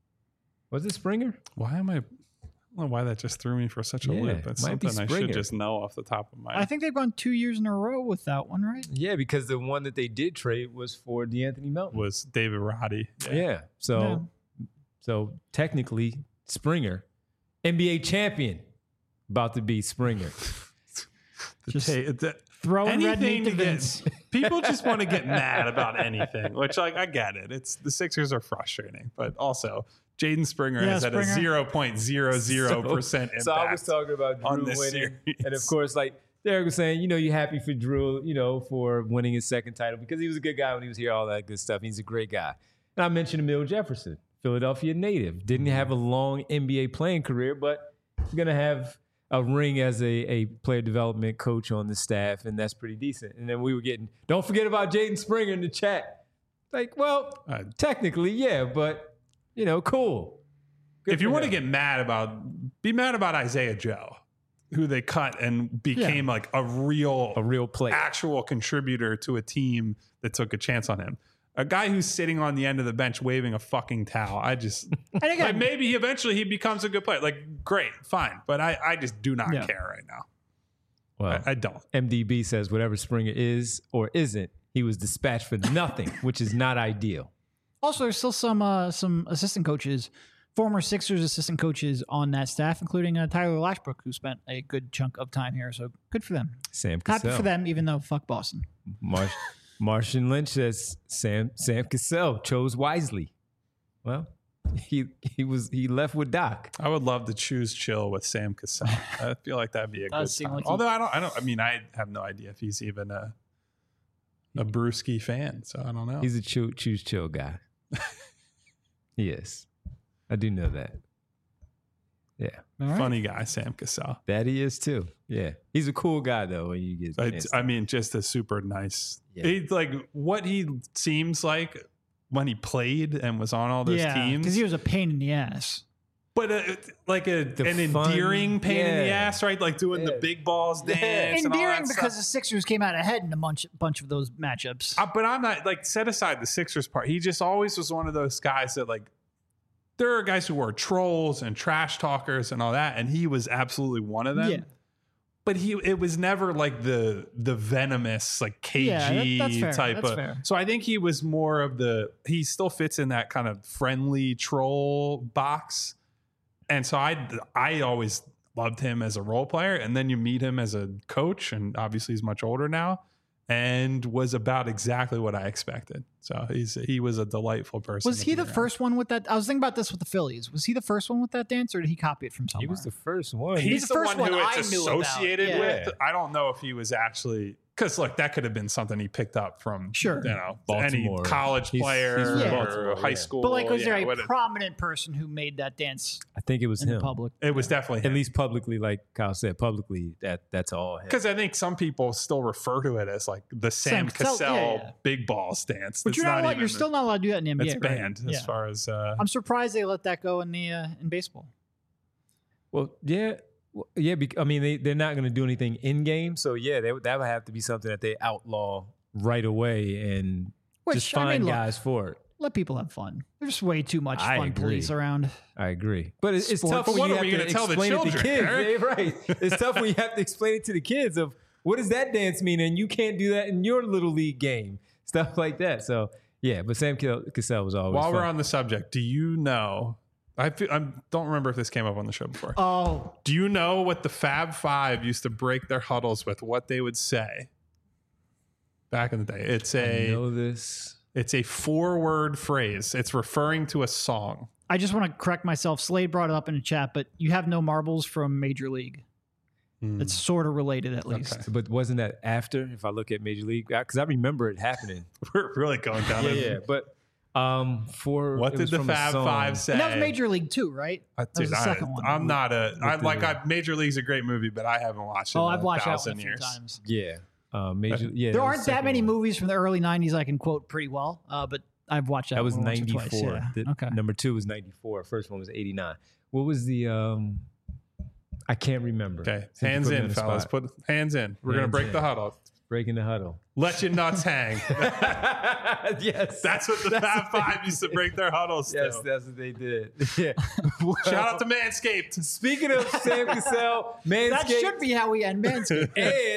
A: Was it Springer?
B: Why am I? I don't know why that just threw me for such a
A: Yeah,
B: loop. That's
A: might be
B: something I
A: Springer.
B: should just know off the top of my
C: I think they've gone two years in a row with that one, right?
A: Yeah, because the one that they did trade was for DeAnthony Melton.
B: was David Roddy.
A: Yeah. So
C: No.
A: so technically Springer, N B A champion, about to be Springer.
B: The
C: Just
B: ta- the-
C: Throwing red
B: anything
C: meat to
B: to get,
C: Vince.
B: people just want to get mad about anything, which like I get it. It's the Sixers are frustrating, but also Jaden Springer
C: Yeah,
B: has had a
C: Springer.
B: zero point zero zero percent impact.
A: So I was talking about
B: on
A: Drew
B: this
A: winning,
B: series.
A: and of course, like Derek was saying, you know, you're happy for Drew, you know, for winning his second title because he was a good guy when he was here, all that good stuff. He's a great guy. And I mentioned Emil Jefferson, Philadelphia native. Didn't have a long N B A playing career, but he's going to have a ring as a, a player development coach on the staff, and that's pretty decent. And then we were getting, don't forget about Jaden Springer in the chat. Like, well,
B: Uh,
A: technically, yeah, but, you know, cool. Good
B: if you
A: for
B: want to
A: him.
B: get mad about, be mad about Isaiah Joe, who they cut and became like a real,
A: a real player.
B: actual contributor to a team that took a chance on him. A guy who's sitting on the end of the bench waving a fucking towel. I just
C: And again,
B: like maybe he eventually he becomes a good player. Like great, fine, but I I just do not
C: Yeah.
B: care right now.
A: Well,
B: I, I don't.
A: M D B says whatever Springer is or isn't, he was dispatched for nothing, which is not ideal.
C: also, there's still some uh, some assistant coaches, former Sixers assistant coaches on that staff, including uh, Tyler Lashbrook, who spent a good chunk of time here. So good for them.
A: Sam
C: Happy
A: Cassell.
C: for them, even though fuck Boston.
A: Marsh, Martian Lynch says Sam Sam Cassell chose wisely. Well, he he was he left with Doc.
B: I would love to choose chill with Sam Cassell. I feel like that'd be a
C: Does
B: good
C: seem
B: time.
C: like he-
B: Although I don't, I don't. I mean, I have no idea if he's even a a Brewski fan, so I don't know.
A: He's a choo- choose chill guy. He is. I do know that. Yeah,
C: All right.
B: funny guy, Sam Cassell.
A: that he is too. Yeah, he's a cool guy though. When you get,
B: I,
A: chance
B: I mean, just a super nice.
A: Yeah.
B: He's like what he seems like when he played and was on all those
C: yeah,
B: teams.
C: because he was a pain in the ass.
B: but a, like a,
A: The
B: an
A: fun-
B: endearing pain in the
A: yeah.
B: ass, right? Like doing
A: Yeah.
B: the big balls
A: Yeah.
B: dance. and all
C: Endearing
B: that
C: because
B: stuff.
C: the Sixers came out ahead in a bunch bunch of those matchups.
B: Uh, but I'm not like set aside the Sixers part. He just always was one of those guys that like there are guys who were trolls and trash talkers and all that, and he was absolutely one of them.
C: Yeah.
B: But he it was never like the the venomous like K G
C: Yeah, that- that's fair.
B: type
C: That's
B: of.
C: fair.
B: So I think he was more of the he still fits in that kind of friendly troll box. And so I I always loved him as a role player, and then you meet him as a coach, and obviously he's much older now, and was about exactly what I expected. So he's he was a delightful person.
C: Was
B: to
C: he
B: be
C: the
B: around.
C: first one with that? I was thinking about this with the Phillies. Was he the first one with that dance, or did he copy it from somewhere?
A: he was the first one.
B: He's,
C: He's the
B: the,
C: first
B: one who
C: one
B: it's
C: I knew about.
B: associated
C: Yeah.
B: with. I don't know if he was actually because look, that could have been something he picked up from
C: Sure.
B: you know
A: Baltimore.
B: any college
A: He's-
B: player
A: he's
C: from
B: or
A: Baltimore,
B: high
A: yeah.
B: school.
C: But like, was
B: yeah,
C: there a
B: what it-
C: prominent person who made that dance
A: I think it was
C: in
A: him.
C: public?
B: it was definitely
A: At
B: him.
A: least publicly, like Kyle said, publicly that that's all him.
B: Because I think some people still refer to it as like the Sam,
C: Sam Cassell,
B: Cassell
C: yeah, yeah.
B: big ball stance.
C: But
B: That's
C: you're not, allowed,
B: even
C: you're
B: the-
C: still not allowed to do that in the N B A.
B: it's
C: right?
B: banned
C: Yeah.
B: as far as uh,
C: I'm surprised they let that go in the uh, in baseball.
A: Well, yeah, well, yeah. bec- I mean, they they're not going to do anything in game, so yeah, they, would- that would have to be something that they outlaw right away and
C: Which,
A: just
C: I mean,
A: find
C: look,
A: guys for it.
C: Let people have fun. There's way too much
A: I
C: fun
A: agree.
C: police around.
A: I agree, but it's, it's
C: Sports.
A: tough
B: But
A: when
B: what
A: you
B: are
A: have
B: we
A: to
B: gonna tell the
A: explain it to
B: children,
A: kids.
B: Eric?
A: Yeah, right. It's tough when you have to explain it to the kids of what does that dance mean, and you can't do that in your little league game, stuff like that. So yeah, but Sam Kill- Cassell was always
B: while
A: fun.
B: we're on the subject, do you know? I feel, I don't remember if this came up on the show before.
C: Oh,
B: Do you know what the Fab Five used to break their huddles with? What they would say back in the day? It's
A: I
B: a
A: know this.
B: it's a four word phrase. It's referring to a song.
C: I just want to correct myself. Slade brought it up in the chat, but you have no marbles from Major League. It's sort of related, at least.
B: Okay.
A: But wasn't that after? If I look at Major League, because I remember it happening.
B: We're really going down.
A: yeah,
B: a-
A: yeah. But um, for
B: What
A: it
B: did
A: was
B: the
A: from a
B: Fab
A: song.
B: Five say?
C: And that was Major League too, right?
B: Uh,
C: That was
B: dude,
C: the
B: I,
C: second one.
B: I'm not a. I
A: With
B: like.
A: the-
B: I, Major League's a great movie, but I haven't watched it.
C: Oh,
B: in
C: I've
B: a
C: watched that one a
B: thousand
C: few
B: years.
C: times.
A: Yeah, uh, Major. Yeah,
C: There
A: was
C: aren't
A: the
C: that
A: second
C: many
A: one.
C: movies from the early nineties I can quote pretty well, uh, but I've watched that.
A: That was
C: one once or
A: ninety-four.
C: twice, yeah.
A: The-
C: Okay.
A: Number two was ninety-four. First one was eighty-nine. What was the? um I can't remember.
B: Okay,
A: Since you
B: hands
A: put me on
B: in,
A: the
B: fellas.
A: spot.
B: Put hands in. We're gonna
A: Hands
B: break
A: in.
B: the huddle.
A: Breaking the huddle.
B: Let your nuts hang.
A: Yes,
B: That's what the
A: That's
B: Fab
A: what they
B: Five used to break their huddles
A: Yes,
B: to.
A: that's what they did. Yeah.
B: Shout out to Manscaped.
A: Speaking of Sam Cassell, Manscaped.
C: That should be how we end Manscaped.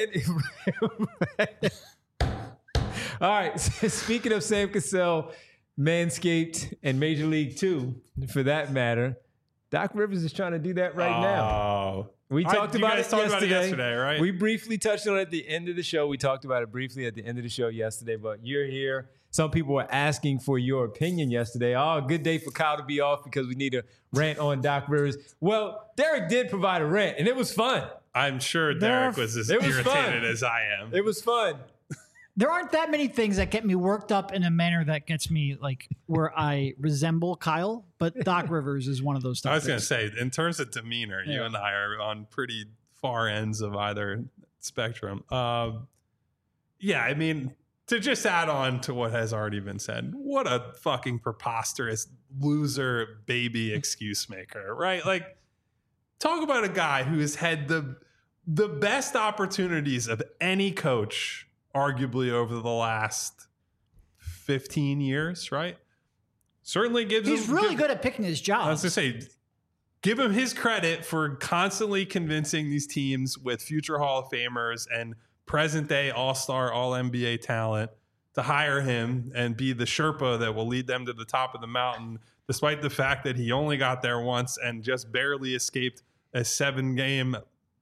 A: And all right, speaking of Sam Cassell, Manscaped, and Major League Two, for that matter, Doc Rivers is trying to do that right now.
B: Oh.
A: We
B: I-
A: talked
B: you
A: about,
B: guys
A: it,
B: talked
A: yesterday.
B: about it yesterday, right?
A: We briefly touched on it at the end of the show. We talked about it briefly at the end of the show yesterday, but you're here. Some people were asking for your opinion yesterday. Oh, good day for Kyle to be off because we need a rant on Doc Rivers. Well, Derek did provide a rant, and it was fun.
B: I'm sure
C: There
B: Derek
C: are-
B: was as
A: It was
B: irritated
A: fun.
B: as I am.
A: It was fun.
C: There aren't that many things that get me worked up in a manner that gets me like where I resemble Kyle, but Doc Rivers is one of those
B: I was
C: topics.
B: going to say, in terms of demeanor, you
C: Yeah.
B: and I are on pretty far ends of either spectrum. Um, yeah, I mean, to just add on to what has already been said, what a fucking preposterous loser baby excuse maker, right? Like, talk about a guy who has had the the best opportunities of any coach, arguably over the last fifteen years, right? Certainly gives
C: He's
B: him,
C: really
B: give-
C: good at picking his
B: I was
C: jobs.
B: going to say, give him his credit for constantly convincing these teams with future Hall of Famers and present day All-Star, All-N B A talent to hire him and be the Sherpa that will lead them to the top of the mountain, despite the fact that he only got there once and just barely escaped a seven-game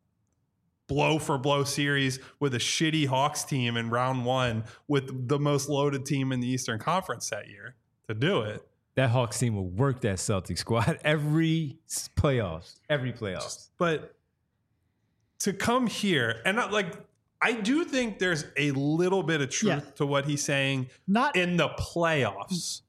B: blow-for-blow series with a shitty Hawks team in round one with the most loaded team in the Eastern Conference that year to do it.
A: That Hawks team will work that Celtic squad every s- playoffs. Every playoffs.
B: But to come here and not like I do think there's a little bit of truth
C: Yeah.
B: to what he's saying
C: Not
B: in the playoffs,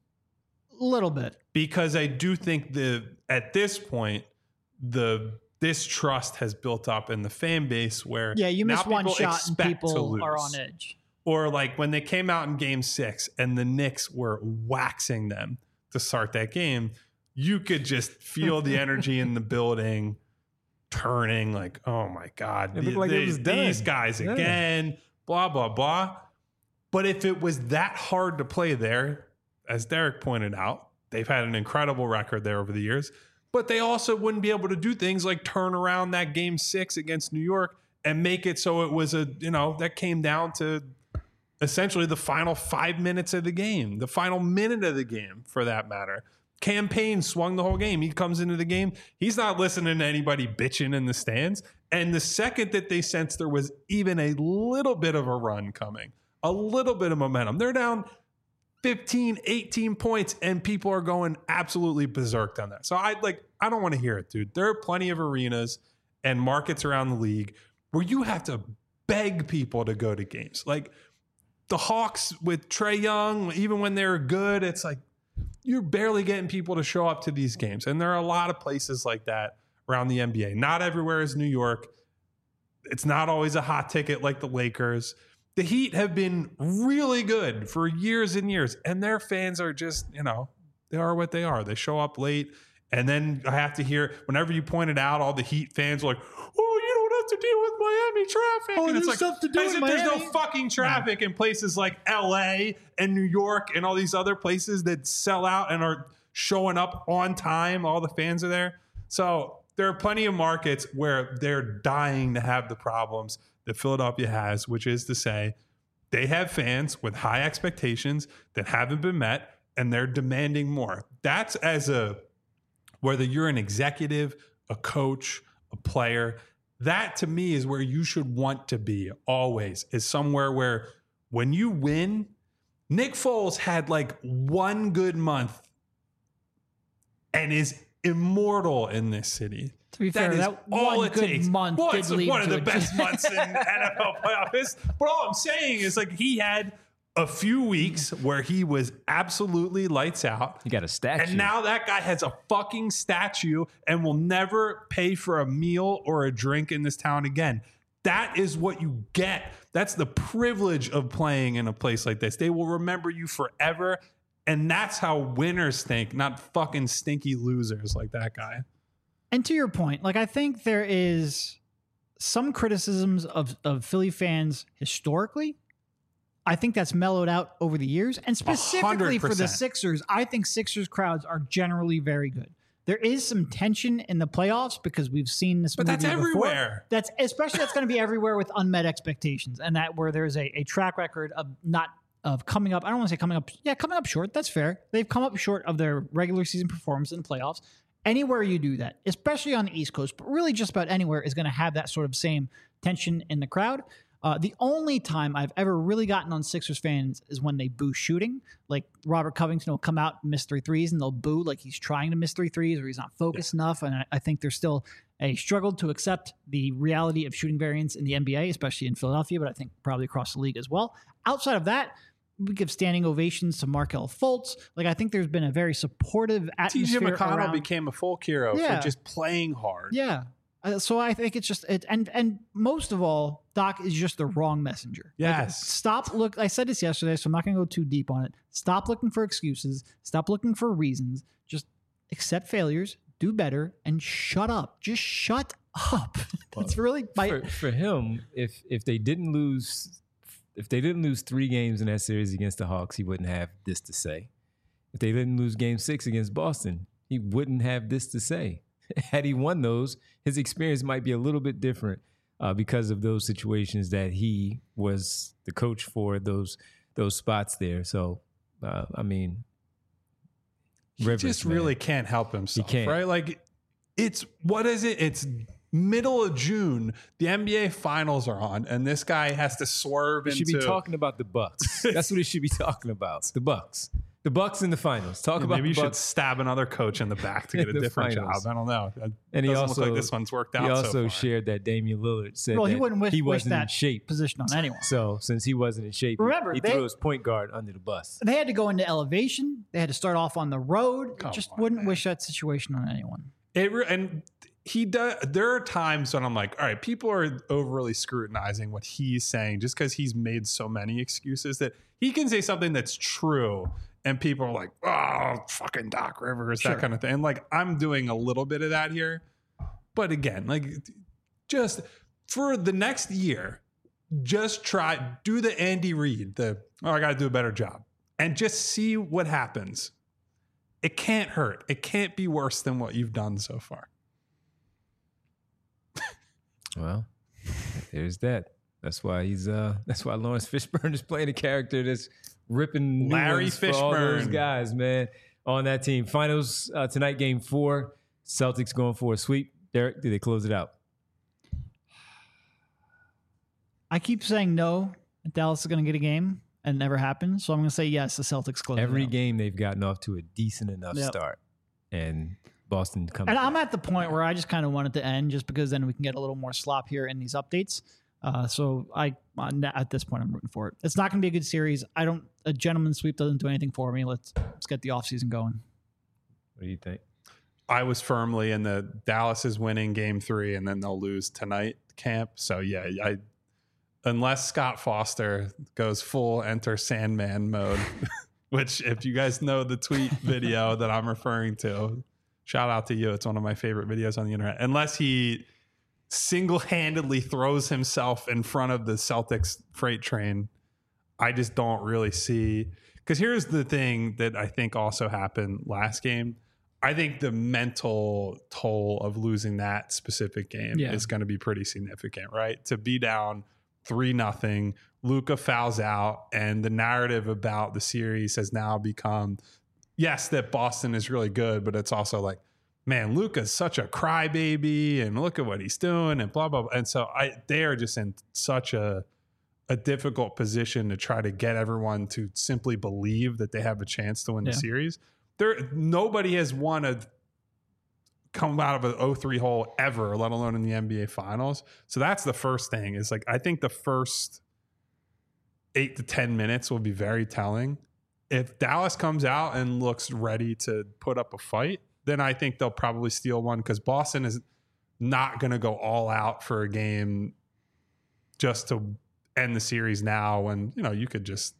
C: a little bit.
B: because I do think the at this point the distrust has built up in the fan base where
C: Yeah, you
B: now
C: miss one
B: people
C: shot and
B: expect to
C: people are
B: lose.
C: on edge.
B: Or like when they came out in game six and the Knicks were waxing them to start that game, you could just feel the energy in the building turning like, oh my God,
A: It
B: the-
A: looked like it
B: the-
A: was done.
B: these guys
A: Yeah.
B: again, blah, blah, blah. But if it was that hard to play there, as Derek pointed out, they've had an incredible record there over the years, but they also wouldn't be able to do things like turn around that game six against New York and make it so it was a, you know, that came down to essentially the final five minutes of the game, the final minute of the game for that matter. Campaign swung the whole game. He comes into the game. He's not listening to anybody bitching in the stands. And the second that they sensed there was even a little bit of a run coming, a little bit of momentum, they're down fifteen, eighteen points and people are going absolutely berserk on that. So I like, I don't want to hear it, dude. There are plenty of arenas and markets around the league where you have to beg people to go to games. Like the Hawks with Trae Young, even when they're good, it's like you're barely getting people to show up to these games. And there are a lot of places like that around the N B A. Not everywhere is New York. It's not always a hot ticket like the Lakers. The Heat have been really good for years and years, and their fans are just, you know, they are what they are. They show up late, and then I have to hear, whenever you point it out, all the Heat fans are like, oh, you don't have to deal with Miami traffic.
C: Oh,
B: and it's
C: there's
B: like,
C: stuff to do
B: as
C: in
B: if
C: Miami.
B: there's no fucking traffic in places like L A and New York and all these other places that sell out and are showing up on time. All the fans are there. So there are plenty of markets where they're dying to have the problems that Philadelphia has, which is to say, they have fans with high expectations that haven't been met, and they're demanding more. That's as a, whether you're an executive, a coach, a player, that to me is where you should want to be always, is somewhere where when you win, Nick Foles had like one good month and is immortal in this city.
C: To be
B: That
C: fair,
B: is
C: that
B: all
C: one
B: it
C: good
B: takes.
C: month
B: Well,
C: did
B: it's
C: lead
B: one of
C: to
B: the
C: a-
B: best months in N F L playoffs. But all I'm saying is, like, he had a few weeks where he was absolutely lights out.
A: You got a statue.
B: And now that guy has a fucking statue and will never pay for a meal or a drink in this town again. That is what you get. That's the privilege of playing in a place like this. They will remember you forever. And that's how winners think, not fucking stinky losers like that guy.
C: And to your point, like I think there is some criticisms of, of Philly fans historically. I think that's mellowed out over the years. And specifically for the
B: percent.
C: Sixers, I think Sixers crowds are generally very good. There is some tension in the playoffs because we've seen this
B: But
C: movie
B: that's
C: before.
B: everywhere.
C: That's especially that's going to be everywhere with unmet expectations, and that where there's a, a track record of not of coming up. I don't want to say coming up. Yeah, coming up short. That's fair. They've come up short of their regular season performance in the playoffs. Anywhere you do that, especially on the East Coast, but really just about anywhere, is going to have that sort of same tension in the crowd. Uh, the only time I've ever really gotten on Sixers fans is when they boo shooting. Like Robert Covington will come out and miss three threes, and they'll boo like he's trying to miss three threes or he's not focused yeah. enough. And I, I think there's still I struggled to accept the reality of shooting variance in the N B A, especially in Philadelphia, but I think probably across the league as well. Outside of that, we give standing ovations to Markelle Fultz. Like, I think there's been a very supportive
B: T J
C: atmosphere
B: McConnell
C: around.
B: became a folk hero
C: Yeah.
B: for just playing hard.
C: Yeah. Uh, so I think it's just it, and and most of all, Doc is just the wrong messenger. Like,
B: Yes.
C: stop look. I said this yesterday, so I'm not going to go too deep on it. Stop looking for excuses. Stop looking for reasons. Just accept failures, do better, and shut up. Just shut up. It's really my,
A: for, for him, if if they didn't lose, if they didn't lose three games in that series against the Hawks, he wouldn't have this to say. If they didn't lose Game Six against Boston, he wouldn't have this to say. Had he won those, his experience might be a little bit different uh, because of those situations that he was the coach for those those spots there. So, uh, I mean,
B: He
A: Rivers,
B: just
A: man.
B: really can't help himself,
A: can't.
B: right? Like, it's, what is it? It's middle of June. The N B A finals are on, and this guy has to swerve
A: We
B: into.
A: should be talking about the Bucks. That's what it should be talking about. The Bucks. The Bucks in the finals. Talk
B: Yeah,
A: about
B: maybe
A: the
B: you
A: Bucks.
B: should stab another coach in the back to get a
A: The
B: different
A: finals.
B: job. I don't know. It
A: And he
B: doesn't
A: also
B: look like this one's worked out.
A: He
B: so
A: also
B: far.
A: shared that Damian Lillard said
C: well, he
A: that
C: wouldn't wish,
A: he
C: wish
A: wasn't in
C: that
A: shape.
C: position on anyone.
A: So since he wasn't in shape,
C: Remember,
A: he, he
C: they-
A: threw his point guard under the bus.
C: They had to go into elevation. They had to start off on the road.
B: Come
C: Just
B: on,
C: wouldn't
B: man.
C: wish that situation on anyone.
B: It re- and he does. There are times when I'm like, all right, people are overly scrutinizing what he's saying just because he's made so many excuses that he can say something that's true, and people are like, oh, fucking Doc Rivers,
C: Sure.
B: that kind of thing. And like, I'm doing a little bit of that here, but again, like, just for the next year, just try do the Andy Reid, the oh, I got to do a better job, and just see what happens. It can't hurt. It can't be worse than what you've done so far.
A: Well, there's that. That's why he's uh that's why Lawrence Fishburne is playing a character that's ripping new
B: Larry
A: ones for all those
B: Fishburne.
A: guys, man, on that team. Finals uh, tonight, game four. Celtics going for a sweep. Derek, do they close it out?
C: I keep saying no. Dallas is going to get a game, and it never happens. So I'm going to say yes. The Celtics close it
A: Every
C: out.
A: game they've gotten off to a decent enough
C: Yep.
A: start. And Boston comes
C: And
A: back.
C: I'm at the point where I just kind of want it to end, just because then we can get a little more slop here in these updates. Uh, so I, at this point, I'm rooting for it. It's not going to be a good series. I don't. A gentleman's sweep doesn't do anything for me. Let's let's get the offseason going.
A: What do you think?
B: I was firmly in the Dallas is winning game three and then they'll lose tonight camp. So yeah, I unless Scott Foster goes full enter Sandman mode, which if you guys know the tweet video that I'm referring to, shout out to you. It's one of my favorite videos on the internet. Unless he single-handedly throws himself in front of the Celtics freight train, I just don't really see. Because here's the thing that I think also happened last game. I think the mental toll of losing that specific game
C: Yeah.
B: is going to be pretty significant, right? To be down three nothing, Luka fouls out, and the narrative about the series has now become, yes, that Boston is really good, but it's also like, man, Luka's such a crybaby, and look at what he's doing, and blah blah blah. And so I, they are just in such a a difficult position to try to get everyone to simply believe that they have a chance to win
C: Yeah.
B: the series. There, nobody has won a come out of an oh three hole ever, let alone in the N B A Finals. So that's the first thing. Is like I think the first eight to ten minutes will be very telling. If Dallas comes out and looks ready to put up a fight, then I think they'll probably steal one because Boston is not going to go all out for a game just to end the series now when, you know, you could just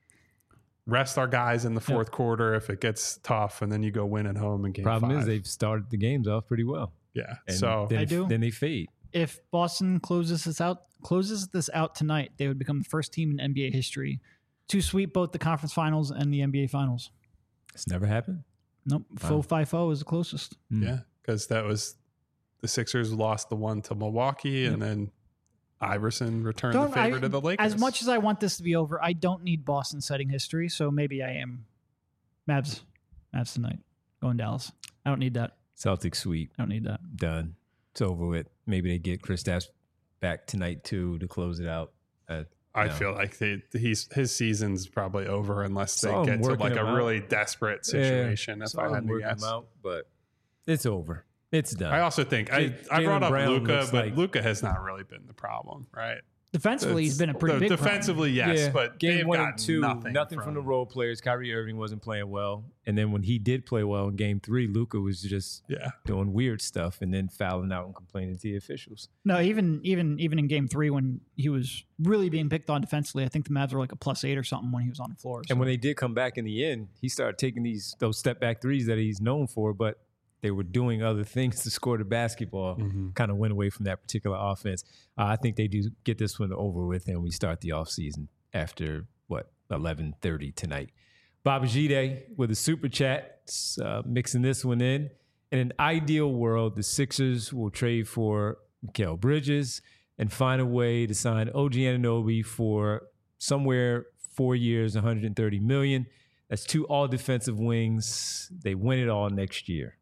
B: rest our guys in the fourth
C: Yeah.
B: quarter if it gets tough, and then you go win at home in game
A: Problem
B: five.
A: is they've started the games off pretty well.
B: yeah.
A: And
B: So
A: then,
C: I
A: it-
C: do.
A: then they fade.
C: If Boston closes this out, closes this out tonight, they would become the first team in N B A history to sweep both the conference finals and the N B A finals.
A: It's never happened.
C: Nope,
A: Wow.
C: full five zero is the closest.
A: Mm.
B: yeah, because that was the Sixers lost the one to Milwaukee, and then Iverson returned
C: Don't-
B: the favor
C: I-
B: to the Lakers.
C: As much as I want this to be over, I don't need Boston setting history, so maybe I am. Mavs, Mavs tonight. Going Dallas. I don't need that.
A: Celtics sweep.
C: I don't need that.
A: Done. It's over with. Maybe they get Kristaps back tonight too to close it out. Uh,
B: I
A: no.
B: feel like they, he's his season's probably over unless they
A: Saw him
B: get to
A: working
B: like a
A: him out.
B: really desperate situation. if
A: Saw
B: I
A: him
B: had to
A: working
B: guess,
A: them out, but it's over. It's done.
B: I also think I,
A: J-
B: I brought
A: Jaylen
B: up
A: Brown
B: Luka,
A: looks
B: but
A: like-
B: Luka has not really been the problem, right?
C: Defensively, he's been a pretty
B: the-
C: big
B: defensively, yes,
A: Yeah,
B: but
A: game
B: they've
A: one
B: got
A: and two,
B: nothing,
A: nothing from, the role players. Kyrie Irving wasn't playing well, and then when he did play well in game three, Luka was just
B: Yeah,
A: doing weird stuff and then fouling out and complaining to the officials.
C: No, even even even in game three when he was really being picked on defensively, I think the Mavs were like a plus eight or something when he was on the floor. So.
A: And when they did come back in the end, he started taking these those step back threes that he's known for, but they were doing other things to score the basketball.
B: Mm-hmm.
A: Kind of went away from that particular offense. Uh, I think they do get this one over with, and we start the offseason after what eleven thirty tonight. Babajide with a super chat, uh, mixing this one in. In an ideal world, the Sixers will trade for Mikal Bridges and find a way to sign O G Anunoby for somewhere four years, one hundred thirty million dollars. That's two all defensive wings. They win it all next year.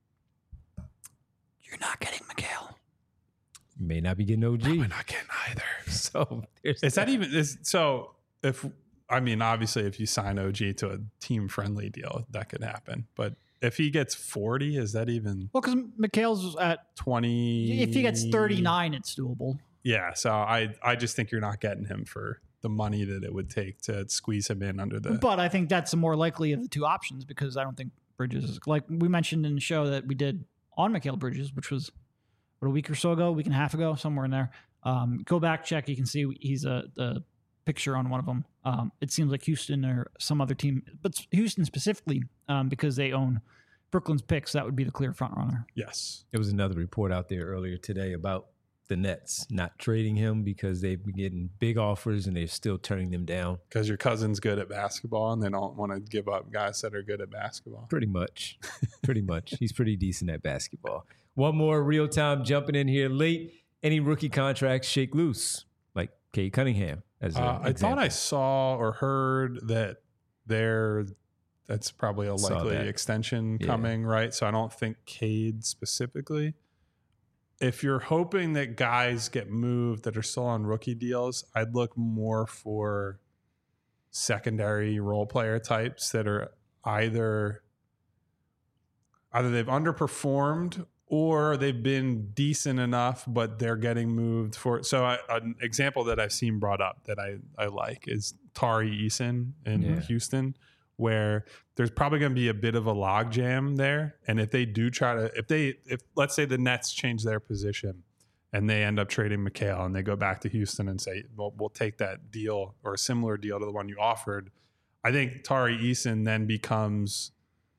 C: You're not getting Mikal.
A: You may not be getting O G.
B: we're not getting either.
A: So there's
B: Is that even is so? If I mean, obviously, if you sign O G to a team friendly deal, that could happen. But if he gets forty, is that even
C: Well, because Mikhail's at
B: twenty?
C: if he gets thirty-nine, it's doable.
B: Yeah. So I I just think you're not getting him for the money that it would take to squeeze him in under the.
C: But I think that's the more likely of the two options because I don't think Bridges is like we mentioned in the show that we did on Mikal Bridges, which was what, a week or so ago, a week and a half ago, somewhere in there. Um, go back, check. You can see he's a the picture on one of them. Um, it seems like Houston or some other team, but Houston specifically um, because they own Brooklyn's picks. That would be the clear front runner.
B: Yes.
A: There was another report out there earlier today about the Nets not trading him because they've been getting big offers and they're still turning them down.
B: Because your cousin's good at basketball and they don't want to give up guys that are good at basketball.
A: Pretty much. Pretty much. He's pretty decent at basketball. One more real time jumping in here late. Any rookie contracts shake loose, like Cade Cunningham. As an
B: Uh, I
A: example.
B: thought I saw or heard that there, that's probably a
A: Saw
B: likely
A: that.
B: extension
A: Yeah.
B: coming, right? So I don't think Cade specifically. If you're hoping that guys get moved that are still on rookie deals, I'd look more for secondary role player types that are either either they've underperformed or they've been decent enough, but they're getting moved for. So I, an example that I've seen brought up that I, I like is Tari Eason in
A: Yeah.
B: Houston, where there's probably going to be a bit of a logjam there. And if they do try to, if they, if let's say the Nets change their position and they end up trading Mikal and they go back to Houston and say, well, we'll take that deal or a similar deal to the one you offered. I think Tari Eason then becomes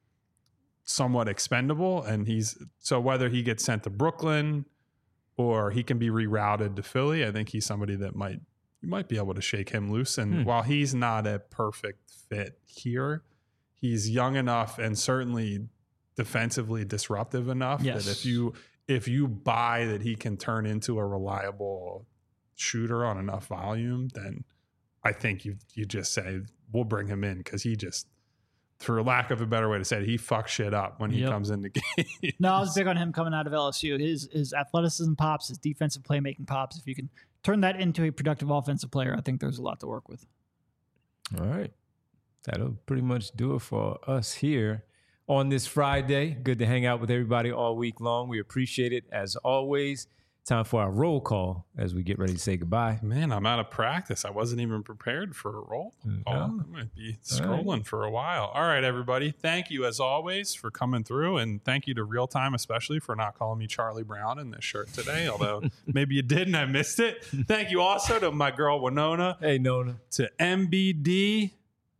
B: somewhat expendable, and he's so whether he gets sent to Brooklyn or he can be rerouted to Philly, I think he's somebody that might you might be able to shake him loose. And
A: Hmm.
B: while he's not a perfect fit here, he's young enough and certainly defensively disruptive enough
C: Yes.
B: that if you if you buy that he can turn into a reliable shooter on enough volume, then I think you you just say we'll bring him in because he just, for lack of a better way to say it, he fucks shit up when he
C: Yep.
B: comes into game.
C: No, I was big on him coming out of L S U. His his athleticism pops, his defensive playmaking pops. If you can turn that into a productive offensive player, I think there's a lot to work with.
A: All right. That'll pretty much do it for us here on this Friday. Good to hang out with everybody all week long. We appreciate it as always. Time for our roll call as we get ready to say goodbye.
B: Man, I'm out of practice. I wasn't even prepared for a roll call.
A: No.
B: I might be
A: All right.
B: scrolling for a while. All right, everybody. Thank you as always for coming through, and thank you to Real Time especially for not calling me Charlie Brown in this shirt today. Although maybe you did and I missed it. Thank you also to my girl Winona,
A: Hey, Nona.
B: to M B D,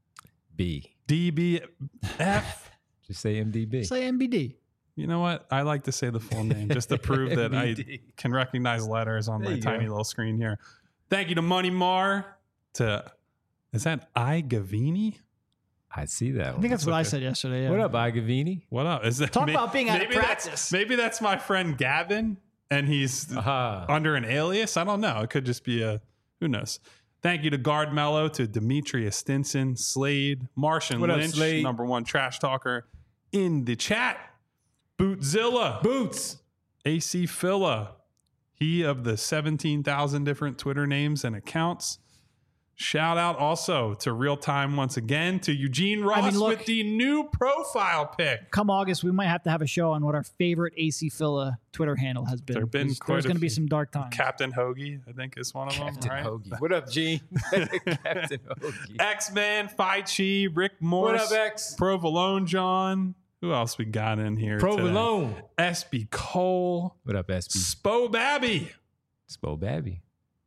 A: B.
B: D B F.
A: Just say M D B.
C: Say M B D.
B: You know what? I like to say the full name just to prove that I
A: M B D.
B: can recognize letters on
A: There
B: my
A: you
B: tiny
A: go.
B: little screen here. Thank you to Money Mar, to, is that I Gavini?
A: I see that
C: I
A: one.
C: think that's what I
B: okay.
C: said yesterday. Yeah.
A: What up, Igavini?
B: What up? Is that
C: Talk
B: may-
C: about being out of
B: maybe that's-
C: practice.
B: Maybe that's my friend Gavin and he's
A: Aha.
B: under an alias. I don't know. It could just be a, who knows? Thank you to Guard Mello, to Demetria Stinson, Slade, Martian
A: What up,
B: Lynch,
A: Slade?
B: number one trash talker in the chat, Bootzilla,
A: Boots.
B: A C Phila, he of the seventeen thousand different Twitter names and accounts, Shout out also to Real Time once again, to Eugene Ross
C: I mean, look,
B: with the new profile pic.
C: Come August, we might have to have a show on what our favorite A C Phila Twitter handle has been.
B: There have been
C: There's,
B: quite
C: there's
B: a
C: going to be
B: few.
C: some dark times.
B: Captain Hoagie, I think, is one of
A: Captain
B: them. Right?
A: Hoagie. What up, Gene? Captain Hoagie.
B: X-Man, Fai Chi, Rick Morris.
A: What up, X?
B: Provolone John. Who else we got in here?
A: Provolone.
B: Today? S B Cole.
A: What up, S B?
B: Spo Babby.
A: Spo Babby.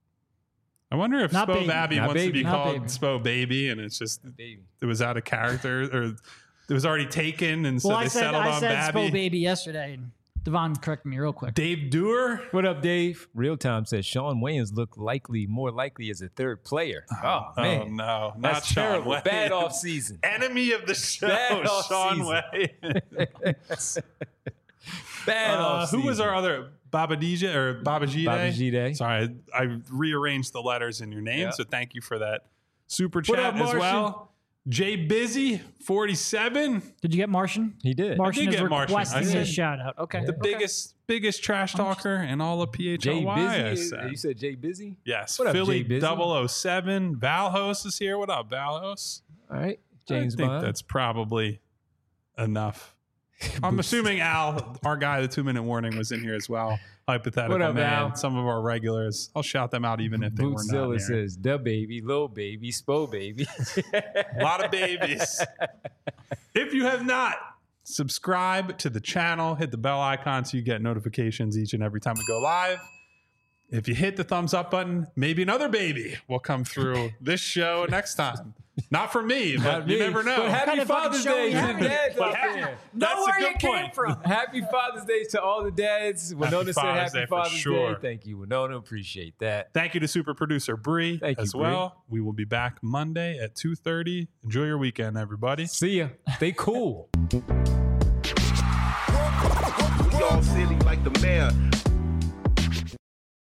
B: I wonder if
C: Not
B: Spo
C: baby.
B: Babby
A: Not
B: wants
A: baby.
B: to be
C: Not
B: called
C: baby.
B: Spo Baby, and it's just
A: Baby.
B: it was out of character, or it was already taken, and so
C: well,
B: they
C: I said,
B: settled
C: I
B: on
C: said
B: Babby.
C: Spo Baby yesterday. And Devon corrected me real quick.
B: Dave Dewar.
A: What up, Dave? Real Time says Sean Wayans looked likely, more likely as a third player. Oh, man.
B: Oh no, not
A: That's
B: Sean
A: terrible.
B: Wayans.
A: Bad off season.
B: Enemy of the show,
A: Bad
B: Sean
A: off-season.
B: Wayans.
A: Bad
B: Uh,
A: off
B: who was
A: season.
B: our other Babadija or Babajide?
A: Babajide.
B: Sorry, I, I rearranged the letters in your name,
A: Yeah.
B: so thank you for that super
A: What
B: chat
A: up,
B: as
A: Martian?
B: well. Jay Busy, forty-seven,
C: Did you get Martian?
A: He did.
C: Martian
B: did
C: is
B: get Martian. I
C: requesting
B: said-
C: a shout out. Okay.
B: the
C: Okay.
B: biggest biggest trash talker in all of P H L
A: Jay
B: Y. I
A: Busy.
B: said.
A: You said Jay Busy?
B: Yes,
A: What up,
B: Philly
A: Jay Busy?
B: double oh seven. Valhos is here. What up, Valhos?
A: All right. James
B: I think
A: Bond.
B: that's probably enough. I'm assuming Al, our guy, the two minute warning, was in here as well. Hypothetical
A: What up,
B: man.
A: Al?
B: Some of our regulars. I'll shout them out even if they were not
A: Bootzilla
B: here.
A: says, "Da baby, Lil baby, Spo baby."
B: A lot of babies. If you have not, subscribe to the channel, hit the bell icon so you get notifications each and every time we go live. If you hit the thumbs up button, maybe another baby will come through this show next time. Not for me, but
A: Not
B: you
A: me.
B: never know.
A: But happy
C: kind of fucking
A: Father's
C: show
A: Day
C: we
A: to
C: have?
A: the dads
B: But
A: out
B: happy-
A: there.
B: That's
C: know
B: a
C: where
B: good
C: you came
B: point.
C: from.
A: Happy Father's Day to all the dads. Winona said
B: Father's
A: Happy
B: Day for
A: Father's
B: sure.
A: Day. Thank you, Winona. Appreciate that.
B: Thank you to super producer Bree
A: Thank you,
B: as
A: Bree.
B: well. We will be back Monday at two thirty. Enjoy your weekend, everybody.
A: See ya. Stay cool.
D: We all silly like the mayor.